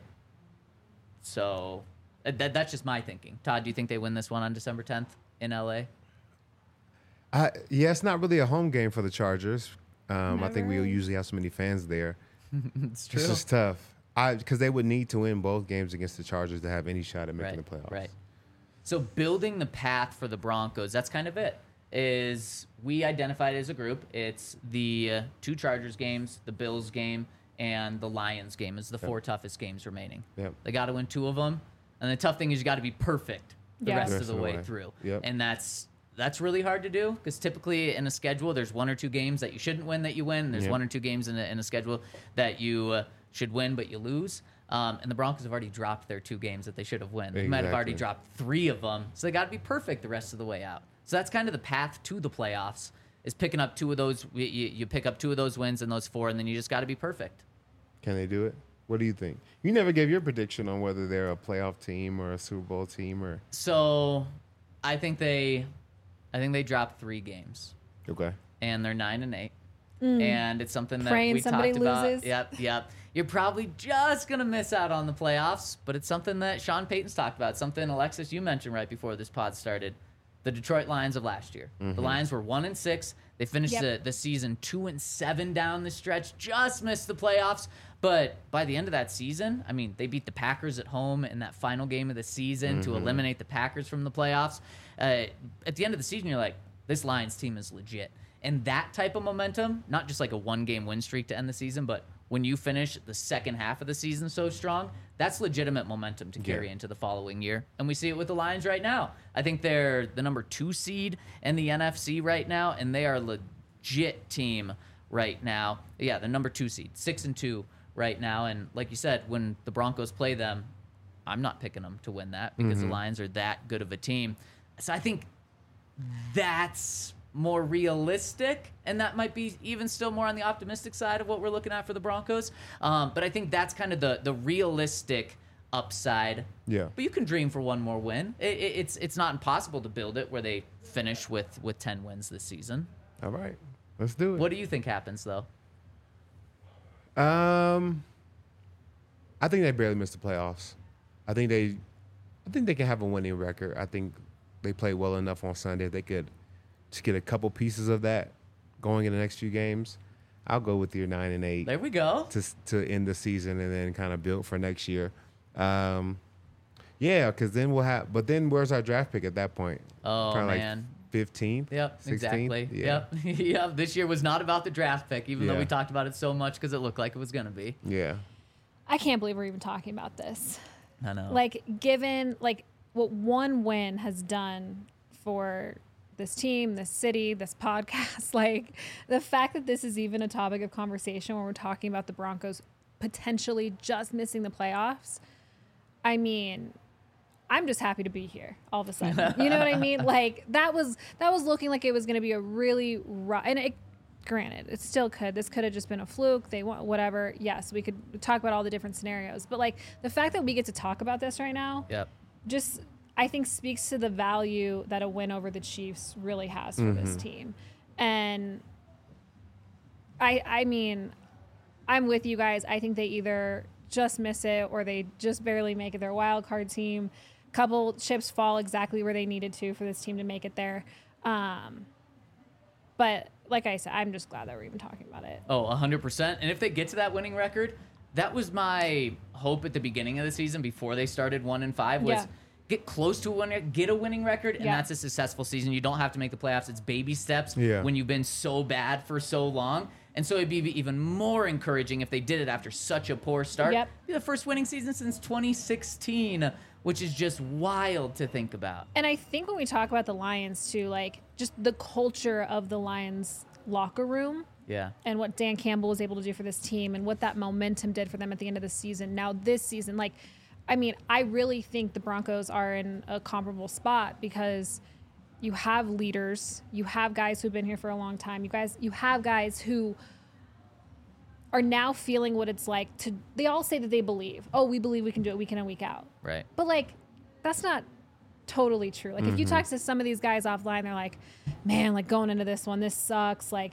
So uh, that, that's just my thinking. Todd, do you think they win this one on December tenth in L A? I, yeah, it's not really a home game for the Chargers. Um, I think we Never. usually have so many fans there. It's true. It's just tough. I because they would need to win both games against the Chargers to have any shot at making Right, the playoffs. right. So building the path for the Broncos, that's kind of it. Is we identified as a group. It's the uh, two Chargers games, the Bills game, and the Lions game is the four toughest games remaining. Yep. They got to win two of them, and the tough thing is you got to be perfect the Yeah. rest Rest of the of the way way. through. Yep. And that's that's really hard to do because typically in a schedule there's one or two games that you shouldn't win that you win. There's Yep. one or two games in a, in a schedule that you uh, should win but you lose. Um, and the Broncos have already dropped their two games that they should have won. They might have already Exactly. dropped three of them, so they got to be perfect the rest of the way out. So that's kind of the path to the playoffs is picking up two of those. You, you pick up two of those wins and those four, and then you just got to be perfect. Can they do it? What do you think? You never gave your prediction on whether they're a playoff team or a Super Bowl team or So I think they, I think they dropped three games, okay. and they're nine and eight. And it's something that Praying we somebody talked about. loses. Yep, yep. You're probably just gonna miss out on the playoffs, but it's something that Sean Payton's talked about. Something Alexis you mentioned right before this pod started. The Detroit Lions of last year. The Lions were one and six. They finished Yep. the, the season two and seven down the stretch. Just missed the playoffs, but by the end of that season, I mean, they beat the Packers at home in that final game of the season to eliminate the Packers from the playoffs. Uh, at the end of the season, you're like, this Lions team is legit. And that type of momentum, not just like a one-game win streak to end the season, but when you finish the second half of the season so strong, that's legitimate momentum to carry Yeah. into the following year. And we see it with the Lions right now. I think they're the number two seed in the N F C right now, and they are a legit team right now. Yeah, the number two seed, six and two right now. And like you said, when the Broncos play them, I'm not picking them to win that because the Lions are that good of a team. So I think that's more realistic, and that might be even still more on the optimistic side of what we're looking at for the Broncos. Um, but I think that's kind of the the realistic upside. Yeah. But you can dream for one more win. It, it, it's it's not impossible to build it where they finish with with ten wins this season. All right. Let's do it. What do you think happens though? Um, I think they barely missed the playoffs. I think they, I think they can have a winning record. I think they play well enough on Sunday. If they could just get a couple pieces of that going in the next few games, I'll go with your nine and eight There we go. to to end the season and then kind of build for next year. Um, yeah, because then we'll have. But then where's our draft pick at that point? Oh, Kinda man. like fifteenth. Yep, sixteenth? exactly. Yeah. Yep, yep. This year was not about the draft pick, even though Yeah. we talked about it so much because it looked like it was going to be. Yeah. I can't believe we're even talking about this. I know. Like, given like what one win has done for this team, this city, this podcast, like the fact that this is even a topic of conversation when we're talking about the Broncos potentially just missing the playoffs. I mean, I'm just happy to be here all of a sudden. You know what I mean? Like that was that was looking like it was going to be a really rough, and it, granted, it still could. This could have just been a fluke. They want whatever. Yes, we could talk about all the different scenarios, but like the fact that we get to talk about this right now, Yep. just I think speaks to the value that a win over the Chiefs really has for Mm-hmm. this team. And I I mean, I'm with you guys. I think they either just miss it or they just barely make it their wild card team. Couple chips fall exactly where they needed to for this team to make it there. Um, but like I said, I'm just glad that we're even talking about it. Oh, one hundred percent. And if they get to that winning record, that was my hope at the beginning of the season before they started one and five was Yeah. get close to a winner, get a winning record, and Yeah. that's a successful season. You don't have to make the playoffs. It's baby steps Yeah. when you've been so bad for so long. And so it'd be even more encouraging if they did it after such a poor start. Yep. Be the first winning season since twenty sixteen, which is just wild to think about. And I think when we talk about the Lions too, like just the culture of the Lions locker room Yeah. and what Dan Campbell was able to do for this team and what that momentum did for them at the end of the season. Now this season, like, I mean, I really think the Broncos are in a comparable spot because you have leaders, you have guys who've been here for a long time. You guys, you have guys who are now feeling what it's like to, they all say that they believe, oh, we believe we can do it week in and week out. Right. But like, that's not totally true. Like if you talk to some of these guys offline, they're like, man, like going into this one, this sucks. Like,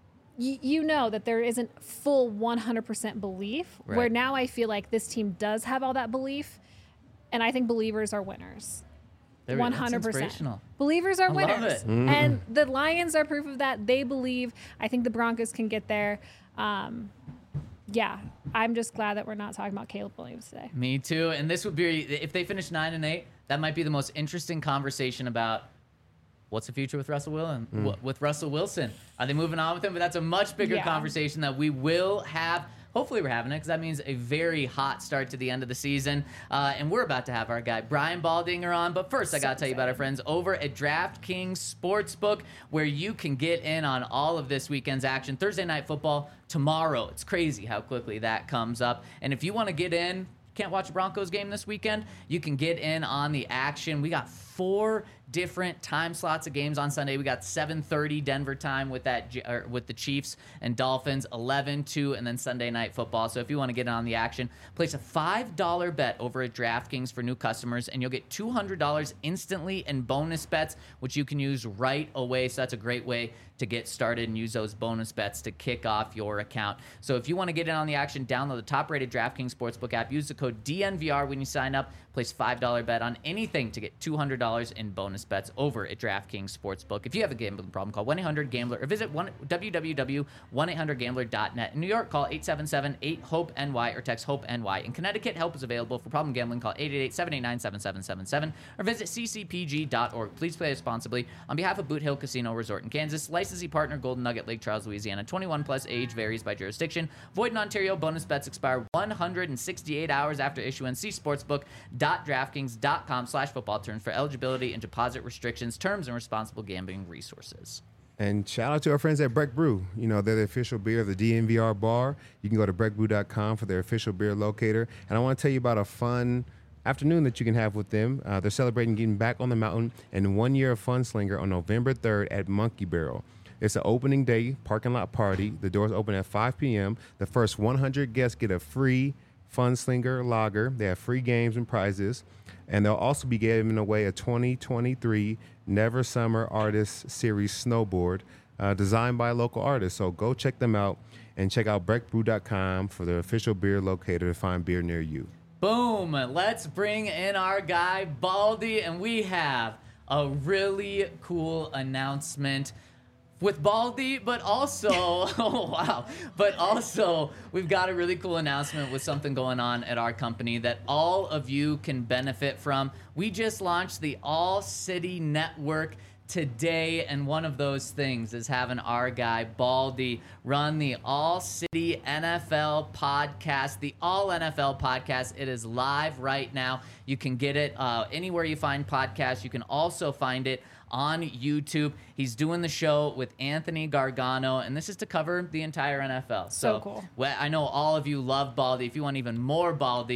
y- you know that there isn't full one hundred percent belief, Right. where now I feel like this team does have all that belief. And I think believers are winners. There we go. one That's hundred percent. inspirational. Believers are I love winners. it. And the Lions are proof of that. They believe. I think the Broncos can get there. Um, yeah, I'm just glad that we're not talking about Caleb Williams today. Me too. And this would be, if they finish nine and eight, that might be the most interesting conversation about what's the future with Russell Wilson. Wh- With Russell Wilson, are they moving on with him? But that's a much bigger Yeah. conversation that we will have. Hopefully we're having it because that means a very hot start to the end of the season. Uh, and we're about to have our guy Brian Baldinger on. But first, I got to tell you about our friends over at DraftKings Sportsbook, where you can get in on all of this weekend's action. Thursday Night Football tomorrow. It's crazy how quickly that comes up. And if you want to get in, can't watch a Broncos game this weekend, you can get in on the action. We got four different time slots of games on Sunday. We got seven thirty Denver time with that J- or with the Chiefs and Dolphins, eleven, two, and then Sunday Night Football. So if you want to get in on the action, place a five dollar bet over at DraftKings for new customers, and you'll get two hundred dollars instantly in bonus bets, which you can use right away. So that's a great way to get started and use those bonus bets to kick off your account. So if you want to get in on the action, download the top-rated DraftKings Sportsbook app. Use the code D N V R when you sign up. Place five dollar bet on anything to get two hundred dollars in bonus bets over at DraftKings Sportsbook. If you have a gambling problem, call one eight hundred gambler or visit w w w dot one eight hundred gambler dot net. In New York, call eight seven seven eight hope N Y or text HOPE-N-Y. In Connecticut, help is available for problem gambling. Call eight eight eight, seven eight nine, seven seven seven seven or visit c c p g dot org. Please play responsibly. On behalf of Boot Hill Casino Resort in Kansas, licensee partner Golden Nugget, Lake Charles, Louisiana. twenty-one plus, age varies by jurisdiction. Void in Ontario. Bonus bets expire one hundred sixty-eight hours after issuance. See sportsbook dot draftkings dot com slash football terms for eligibility and deposit restrictions, terms, and responsible gambling resources. And shout out to our friends at Breck Brew. You know, they're the official beer of the D N V R bar. You can go to breck brew dot com for their official beer locator. And I want to tell you about a fun afternoon that you can have with them. Uh, they're celebrating getting back on the mountain and one year of Fun Slinger on November third at Monkey Barrel. It's an opening day parking lot party. The doors open at five p.m. The first one hundred guests get a free Fun Slinger lager. They have free games and prizes. And they'll also be giving away a twenty twenty-three Never Summer Artist Series snowboard uh, designed by a local artist. So go check them out and check out breck brew dot com for the official beer locator to find beer near you. Boom. Let's bring in our guy, Baldy, and we have a really cool announcement with Baldy, but also, oh wow, but also we've got a really cool announcement with something going on at our company that all of you can benefit from. We just launched the All City Network today, and one of those things is having our guy Baldy run the All City N F L podcast, the All N F L podcast. It is live right now. You can get it uh, anywhere you find podcasts. You can also find it on YouTube. He's doing the show with Anthony Gargano, and this is to cover the entire N F L. So cool. Well, I know all of you love Baldy. If you want even more Baldy,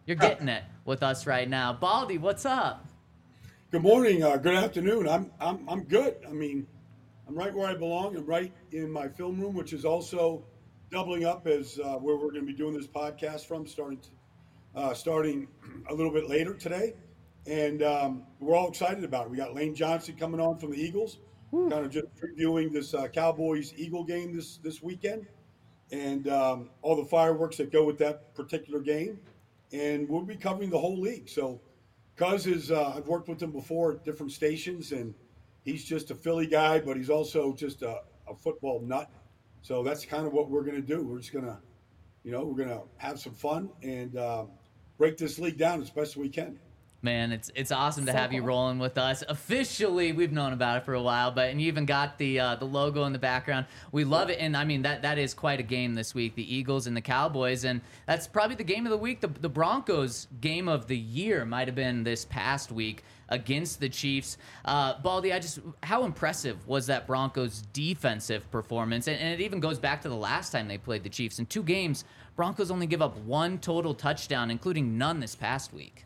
You're getting it with us right now. Baldy, what's up? Good morning. Uh, good afternoon. I'm I'm I'm good. I mean, I'm right where I belong. I'm right in my film room, which is also doubling up as uh, where we're going to be doing this podcast from, starting to, uh, starting a little bit later today. And um, we're all excited about it. We got Lane Johnson coming on from the Eagles, Woo. kind of just previewing this uh, Cowboys-Eagle game this, this weekend, and um, all the fireworks that go with that particular game. And we'll be covering the whole league. So Cuz is, uh, I've worked with him before at different stations, and he's just a Philly guy, but he's also just a, a football nut. So that's kind of what we're going to do. We're just going to, you know, we're going to have some fun and uh, break this league down as best we can. Man, it's it's awesome to So have you cool. rolling with us. Officially, we've known about it for a while, but and you even got the uh, the logo in the background. We love it, and I mean that that is quite a game this week. The Eagles and the Cowboys, and that's probably the game of the week. The, the Broncos game of the year might have been this past week against the Chiefs. Uh, Baldy, I just how impressive was that Broncos defensive performance? And, and it even goes back to the last time they played the Chiefs. In two games, Broncos only give up one total touchdown, including none this past week.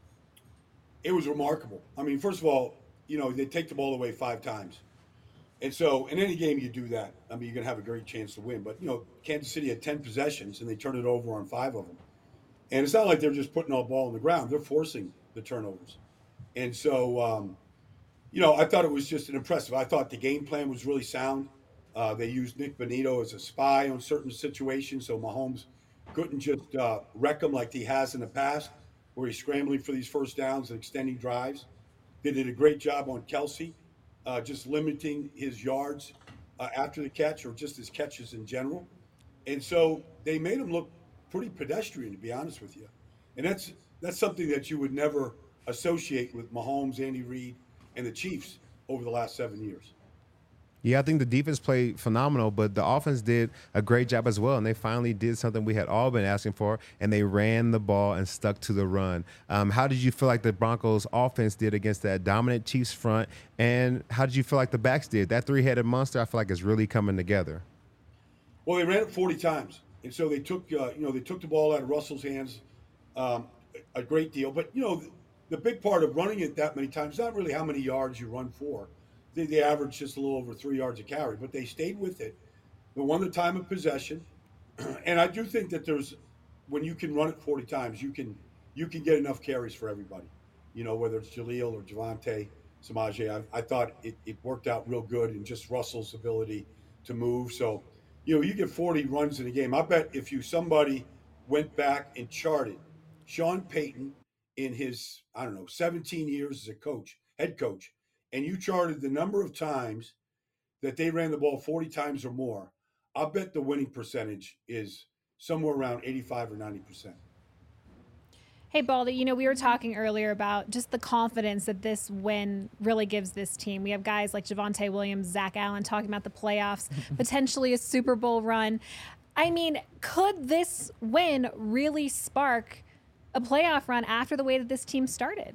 It was remarkable. I mean, first of all, you know, they take the ball away five times. And so in any game you do that, I mean, you're going to have a great chance to win. But, you know, Kansas City had ten possessions, and they turned it over on five of them. And it's not like they're just putting all the ball on the ground. They're forcing the turnovers. And so, um, you know, I thought it was just an impressive. I thought the game plan was really sound. Uh, they used Nick Bonito as a spy on certain situations, so Mahomes couldn't just uh, wreck them like he has in the past, where he's scrambling for these first downs and extending drives. They did a great job on Kelsey, uh, just limiting his yards uh, after the catch, or just his catches in general. And so they made him look pretty pedestrian, to be honest with you. And that's that's something that you would never associate with Mahomes, Andy Reid, and the Chiefs over the last seven years. Yeah, I think the defense played phenomenal, but the offense did a great job as well, and they finally did something we had all been asking for, and they ran the ball and stuck to the run. Um, how did you feel like the Broncos' offense did against that dominant Chiefs front, and how did you feel like the backs did? That three-headed monster, I feel like, is really coming together. Well, they ran it forty times, and so they took, uh, you know, they took the ball out of Russell's hands um, a great deal. But you know, the, the big part of running it that many times is not really how many yards you run for. They, they averaged just a little over three yards a carry, but they stayed with it. They won the time of possession, and I do think that there's, when you can run it forty times, you can you can get enough carries for everybody. You know, whether it's Jaleel or Javonte, Samaje. I, I thought it, it worked out real good, and just Russell's ability to move. So, you know, you get forty runs in a game. I bet if you somebody went back and charted Sean Payton in his, I don't know, seventeen years as a coach, head coach, and you charted the number of times that they ran the ball forty times or more, I bet the winning percentage is somewhere around eighty-five or ninety percent. Hey, Baldy, you know, we were talking earlier about just the confidence that this win really gives this team. We have guys like Javonte Williams, Zach Allen talking about the playoffs, potentially a Super Bowl run. I mean, could this win really spark a playoff run after the way that this team started?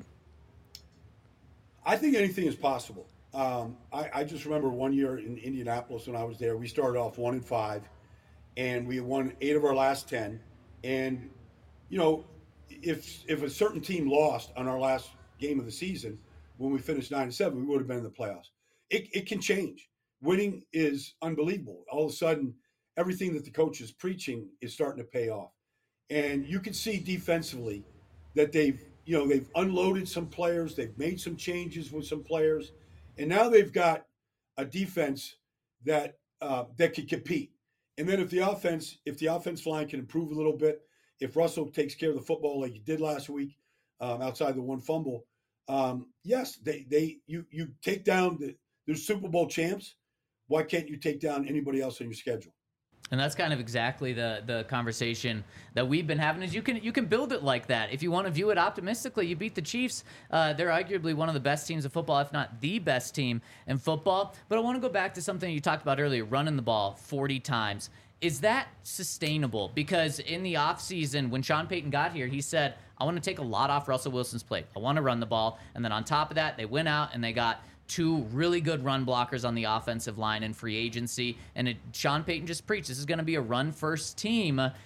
I think anything is possible. Um, I, I just remember one year in Indianapolis when I was there, we started off one and five, and we won eight of our last ten. And, you know, if if a certain team lost on our last game of the season, when we finished nine and seven, we would have been in the playoffs. It, it can change. Winning is unbelievable. All of a sudden, everything that the coach is preaching is starting to pay off. And you can see defensively that they've, you know, they've unloaded some players, they've made some changes with some players, and now they've got a defense that uh, that can compete. And then if the offense, if the offensive line can improve a little bit, if Russell takes care of the football like he did last week, um, outside the one fumble, um, yes, they they you you take down the they're Super Bowl champs. Why can't you take down anybody else on your schedule? And that's kind of exactly the the conversation that we've been having. Is you can you can build it like that. If you want to view it optimistically, you beat the Chiefs. Uh, they're arguably one of the best teams of football, if not the best team in football. But I want to go back to something you talked about earlier: running the ball forty times. Is that sustainable? Because in the offseason, when Sean Payton got here, he said, I want to take a lot off Russell Wilson's plate. I want to run the ball. And then on top of that, they went out and they got two really good run blockers on the offensive line in free agency. And it, Sean Payton just preached, this is going to be a run-first team.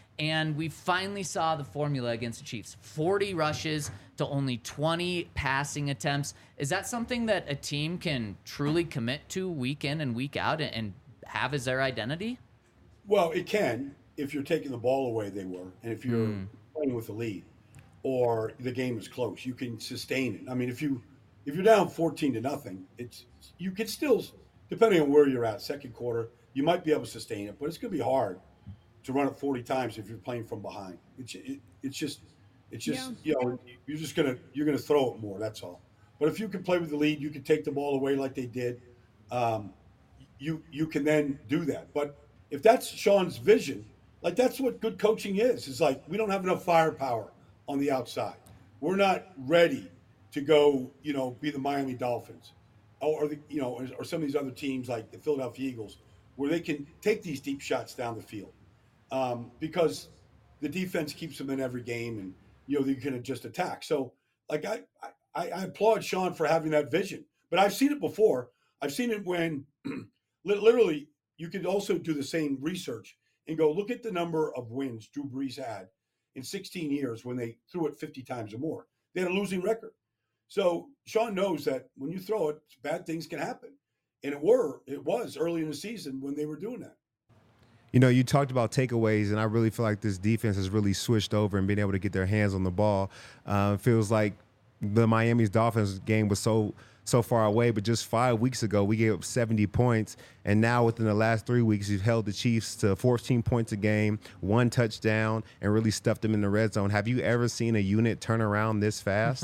And we finally saw the formula against the Chiefs. forty rushes to only twenty passing attempts. Is that something that a team can truly commit to week in and week out and have as their identity? Well, it can if you're taking the ball away, they were. And if you're mm. playing with the lead or the game is close, you can sustain it. I mean, if, you, if you're down fourteen to nothing, it's you can still, depending on where you're at, second quarter, you might be able to sustain it, but it's going to be hard to run it forty times if you're playing from behind. It's it, it's just it's just yeah. you know you're just gonna you're gonna throw it more. That's all. But if you can play with the lead, you can take the ball away like they did. Um, you you can then do that. But if that's Sean's vision, like that's what good coaching is. It's like we don't have enough firepower on the outside. We're not ready to go. You know, be the Miami Dolphins, or the you know, or some of these other teams like the Philadelphia Eagles, where they can take these deep shots down the field. Um, because the defense keeps them in every game, and you know you can just attack. So, like I, I, I applaud Sean for having that vision. But I've seen it before. I've seen it when, literally, you could also do the same research and go look at the number of wins Drew Brees had in sixteen years when they threw it fifty times or more. They had a losing record. So Sean knows that when you throw it, bad things can happen, and it were it was early in the season when they were doing that. You know, you talked about takeaways, and I really feel like this defense has really switched over and been able to get their hands on the ball. Uh, it feels like the Miami's Dolphins game was so so far away, but just five weeks ago, we gave up seventy points, and now within the last three weeks, you've held the Chiefs to fourteen points a game, one touchdown, and really stuffed them in the red zone. Have you ever seen a unit turn around this fast?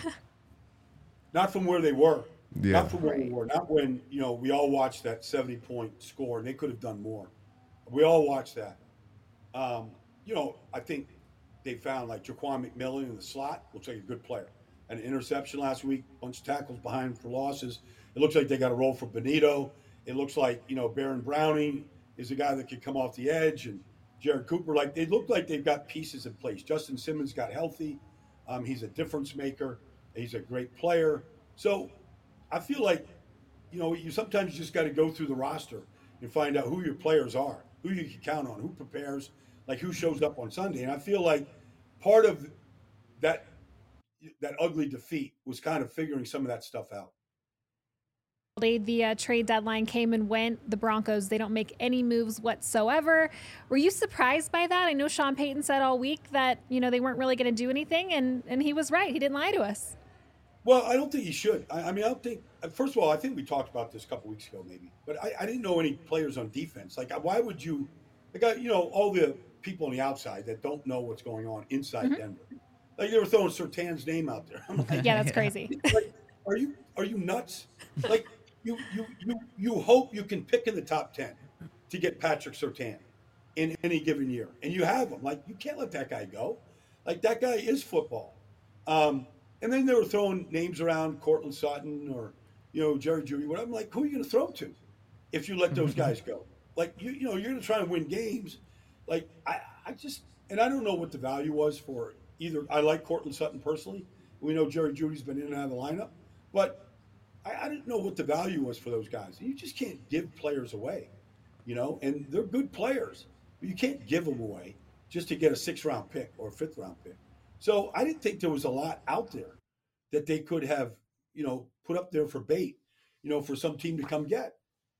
Not from where they were. Yeah. Not from where they were. Not when, you know, we all watched that seventy-point score, and they could have done more. We all watched that. Um, you know, I think they found like Jaquan McMillan in the slot. Looks like a good player. An interception last week, bunch of tackles behind for losses. It looks like they got a role for Benito. It looks like, you know, Baron Browning is a guy that can come off the edge, and Jared Cooper. Like they look like they've got pieces in place. Justin Simmons got healthy. Um, he's a difference maker. He's a great player. So I feel like, you know, you sometimes just got to go through the roster and find out who your players are, who you can count on, who prepares, like who shows up on Sunday. And I feel like part of that that ugly defeat was kind of figuring some of that stuff out. The uh, trade deadline came and went. The Broncos, they don't make any moves whatsoever. Were you surprised by that? I know Sean Payton said all week that, you know, they weren't really going to do anything, and, and he was right. He didn't lie to us. Well, I don't think he should. I, I mean, I don't think – first of all, I think we talked about this a couple weeks ago maybe. But I, I didn't know any players on defense. Like, why would you – like, I, you know, all the people on the outside that don't know what's going on inside mm-hmm. Denver. Like, they were throwing Surtain's name out there. I'm like, yeah, that's crazy. Like, are you are you nuts? Like, you, you, you, you hope you can pick in the top ten to get Patrick Surtain in any given year. And you have him. Like, you can't let that guy go. Like, that guy is football. Um And then they were throwing names around, Cortland Sutton or, you know, Jerry Jeudy. What I'm like, who are you going to throw to if you let those guys go? Like, you you know, you're going to try and win games. Like, I, I just – and I don't know what the value was for either. I like Cortland Sutton personally. We know Jerry Judy's been in and out of the lineup. But I, I didn't know what the value was for those guys. You just can't give players away, you know. And they're good players. But you can't give them away just to get a sixth-round pick or a fifth-round pick. So I didn't think there was a lot out there that they could have, you know, put up there for bait, you know, for some team to come get.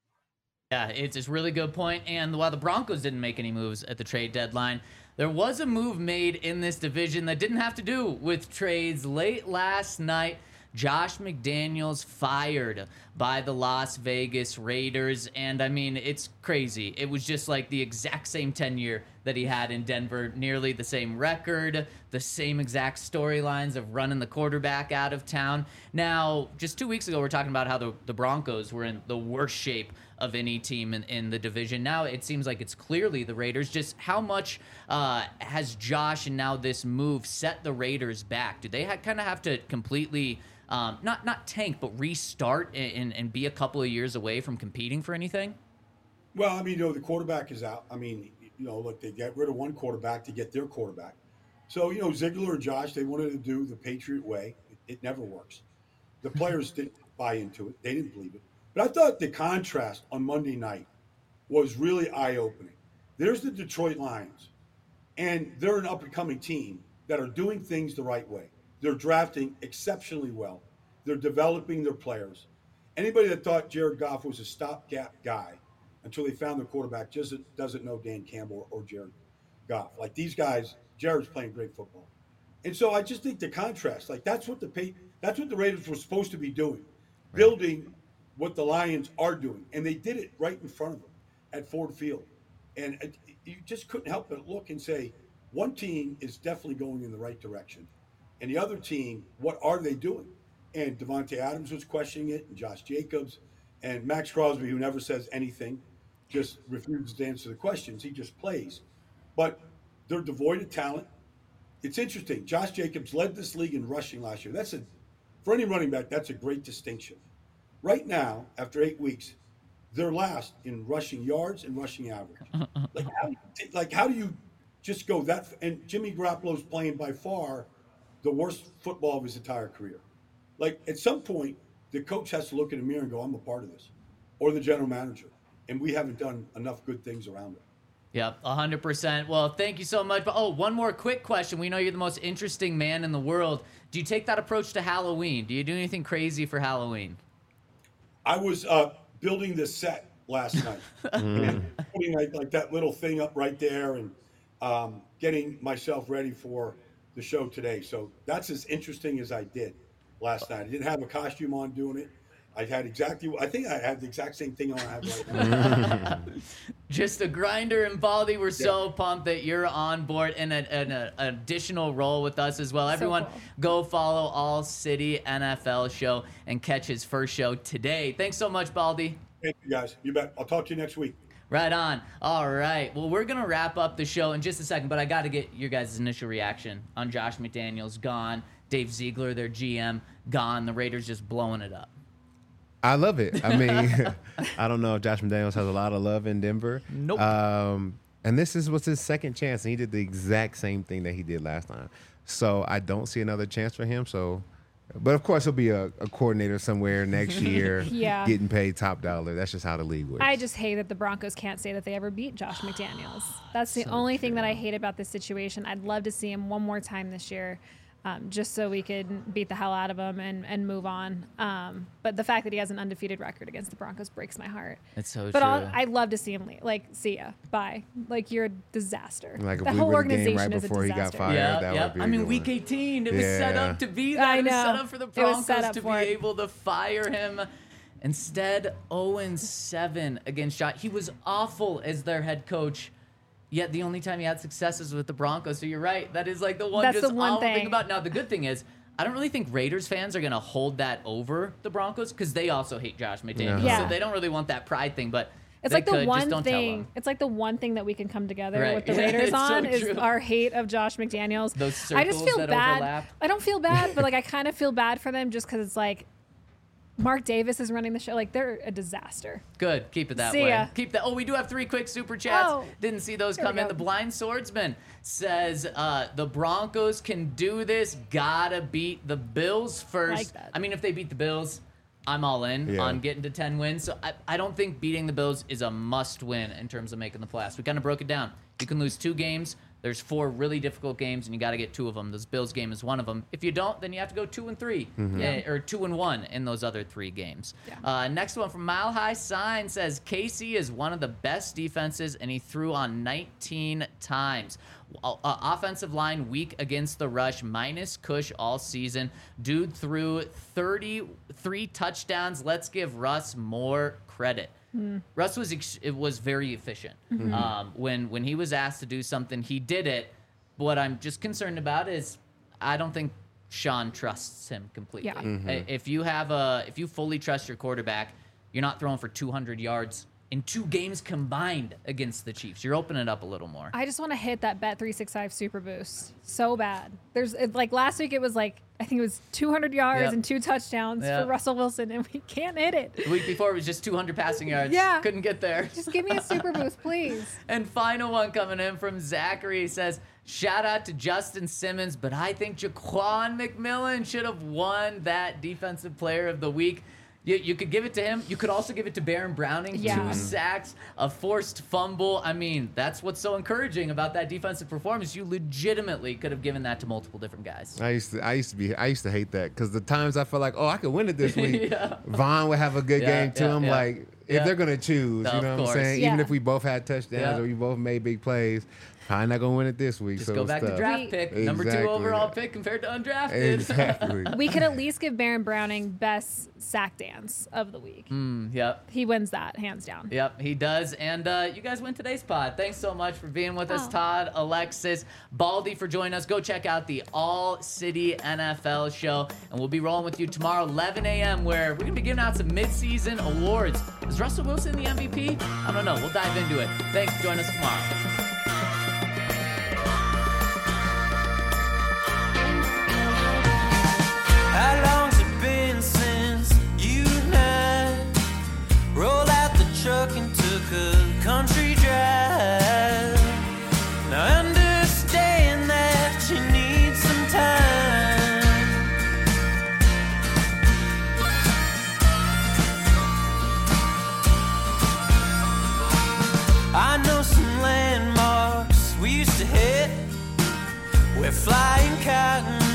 Yeah, it's a really good point. And while the Broncos didn't make any moves at the trade deadline, there was a move made in this division that didn't have to do with trades. Late last night, Josh McDaniels fired by the Las Vegas Raiders. And I mean, it's crazy. It was just like the exact same tenure that he had in Denver, nearly the same record, the same exact storylines of running the quarterback out of town. Now, just two weeks ago, we we're talking about how the, the Broncos were in the worst shape of any team in, in the division. Now it seems like it's clearly the Raiders. Just how much uh, has Josh and now this move set the Raiders back? Do they ha- kind of have to completely um, not not tank, but restart and, and be a couple of years away from competing for anything? Well, I mean, you know, the quarterback is out. I mean, you know, look, they get rid of one quarterback to get their quarterback. So, you know, Ziegler and Josh, they wanted to do the Patriot way. It, it never works. The players didn't buy into it. They didn't believe it. But I thought the contrast on Monday night was really eye-opening. There's the Detroit Lions, And they're an up-and-coming team that are doing things the right way. They're drafting exceptionally well. They're developing their players. Anybody that thought Jared Goff was a stopgap guy until they found their quarterback just doesn't know Dan Campbell or Jared Goff. Like these guys, Jared's playing great football. And so I just think the contrast, like that's what the that's what the Raiders were supposed to be doing, right. Building what the Lions are doing. And they did it right in front of them at Ford Field. And it, you just couldn't help but look and say, one team is definitely going in the right direction. And the other team, what are they doing? And Devontae Adams was questioning it, and Josh Jacobs, and Max Crosby, who never says anything, just refuses to answer the questions. He just plays. But they're devoid of talent. It's interesting. Josh Jacobs led this league in rushing last year. That's a, for any running back, that's a great distinction. Right now, after eight weeks, they're last in rushing yards and rushing average. Like how, like, how do you just go that? And Jimmy Garoppolo's playing by far the worst football of his entire career. Like at some point, the coach has to look in the mirror and go, I'm a part of this, or the general manager. And we haven't done enough good things around it. Yep, one hundred percent. Well, thank you so much. But oh, one more quick question. We know you're the most interesting man in the world. Do you take that approach to Halloween? Do you do anything crazy for Halloween? I was uh, building this set last night. And putting like, like that little thing up right there and um, getting myself ready for the show today. So that's as interesting as I did last night. I didn't have a costume on doing it. I had exactly, I think I had the exact same thing on I have right now. Just a grinder and Baldy. We're so yeah. pumped that you're on board in an additional role with us as well. So Everyone, cool. go follow All City N F L Show and catch his first show today. Thanks so much, Baldy. Thank you, guys. You bet. I'll talk to you next week. Right on. All right. Well, we're going to wrap up the show in just a second, but I got to get your guys' initial reaction on Josh McDaniels gone, Dave Ziegler, their G M, gone, the Raiders just blowing it up. I love it. I mean, I don't know if Josh McDaniels has a lot of love in Denver. Nope. Um, and this is what's his second chance, and he did the exact same thing that he did last time. So I don't see another chance for him. So, but of course, he'll be a, a coordinator somewhere next year, yeah. getting paid top dollar. That's just how the league works. I just hate that the Broncos can't say that they ever beat Josh McDaniels. That's the so only thing that I hate about this situation. I'd love to see him one more time this year. Um, just so we could beat the hell out of him and, and move on. Um, but the fact that he has an undefeated record against the Broncos breaks my heart. It's so but true. But I'd love to see him leave. Like, see ya. Bye. Like, you're a disaster. Like the if whole we were organization the game right is a before disaster. he got fired, yeah, that yeah. would be I mean, good. week eighteen, it was yeah. set up to be that. I It was know. set up for the It was set Broncos up to be for it. able to fire him. Instead, oh and seven against Josh. He was awful as their head coach. Yet the only time he had success is with the Broncos. So you're right. That is like the one That's just the one awful thing. thing about. Now the good thing is, I don't really think Raiders fans are going to hold that over the Broncos because they also hate Josh McDaniels. Yeah. So they don't really want that pride thing, but It's they like the could. one Just don't tell thing. them. It's like the one thing that we can come together Right. with the Yeah, Raiders it's so on is true. our hate of Josh McDaniels. Those I just circles feel that bad. overlap. I don't feel bad, but like I kind of feel bad for them just because it's like Mark Davis is running the show. Like they're a disaster. Good. Keep it that See way. ya. Keep that. Oh, we do have three quick super chats. Oh. Didn't see those Here we come in. go. The Blind Swordsman says uh, the Broncos can do this. Gotta beat the Bills first. Like that. I mean, if they beat the Bills, I'm all in Yeah. on getting to ten wins. So I, I don't think beating the Bills is a must win in terms of making the playoffs. We kind of broke it down. You can lose two games. There's four really difficult games, and you got to get two of them. This Bills game is one of them. If you don't, then you have to go two and three, eh, or two and one in those other three games. Yeah. Uh, next one from Mile High Sign says K C is one of the best defenses, and he threw on nineteen times. Uh, uh, offensive line weak against the rush, minus Cush all season. Dude threw thirty-three touchdowns. Let's give Russ more credit. Mm. Russ was ex- it was very efficient. Mm-hmm. Um, when when he was asked to do something, he did it. What I'm just concerned about is I don't think Sean trusts him completely. Yeah. Mm-hmm. If you have a if you fully trust your quarterback, you're not throwing for two hundred yards in two games combined against the Chiefs. You're opening it up a little more. I just want to hit that Bet three sixty-five Super Boost so bad. There's it, like last week it was like I think it was two hundred yards Yep. and two touchdowns Yep. for Russell Wilson, and we can't hit it. The week before it was just two hundred passing yards. Yeah. Couldn't get there. Just give me a Super Boost, please. And final one coming in from Zachary says, shout out to Justin Simmons, but I think Jaquan McMillan should have won that Defensive Player of the Week. You, you could give it to him. You could also give it to Baron Browning. Yeah. Two sacks, a forced fumble. I mean, that's what's so encouraging about that defensive performance. You legitimately could have given that to multiple different guys. I used to, I used to be, I used to hate that because the times I felt like, oh, I could win it this week. Yeah. Vaughn would have a good Yeah, game too. yeah, I'm yeah. like, if Yeah. they're gonna choose, No, you know of what I'm course. saying? Yeah. Even if we both had touchdowns Yeah. or we both made big plays, probably not gonna win it this week. Just so go it's back to tough. draft We- pick. Number two Exactly. overall pick compared to undrafted. Exactly. We could at least give Baron Browning best sack dance of the week. Mm, yep. He wins that hands down. Yep, he does. And uh, you guys win today's pod. Thanks so much for being with us, Oh. Todd, Alexis, Baldy for joining us. Go check out the All City N F L show. And we'll be rolling with you tomorrow, eleven a.m., where we're going to be giving out some midseason awards. Is Russell Wilson the M V P? I don't know. We'll dive into it. Thanks. Join us tomorrow. How long's it been since you and I rolled out the truck and took a country drive? Now I understand that you need some time. I know some landmarks we used to hit where flying cotton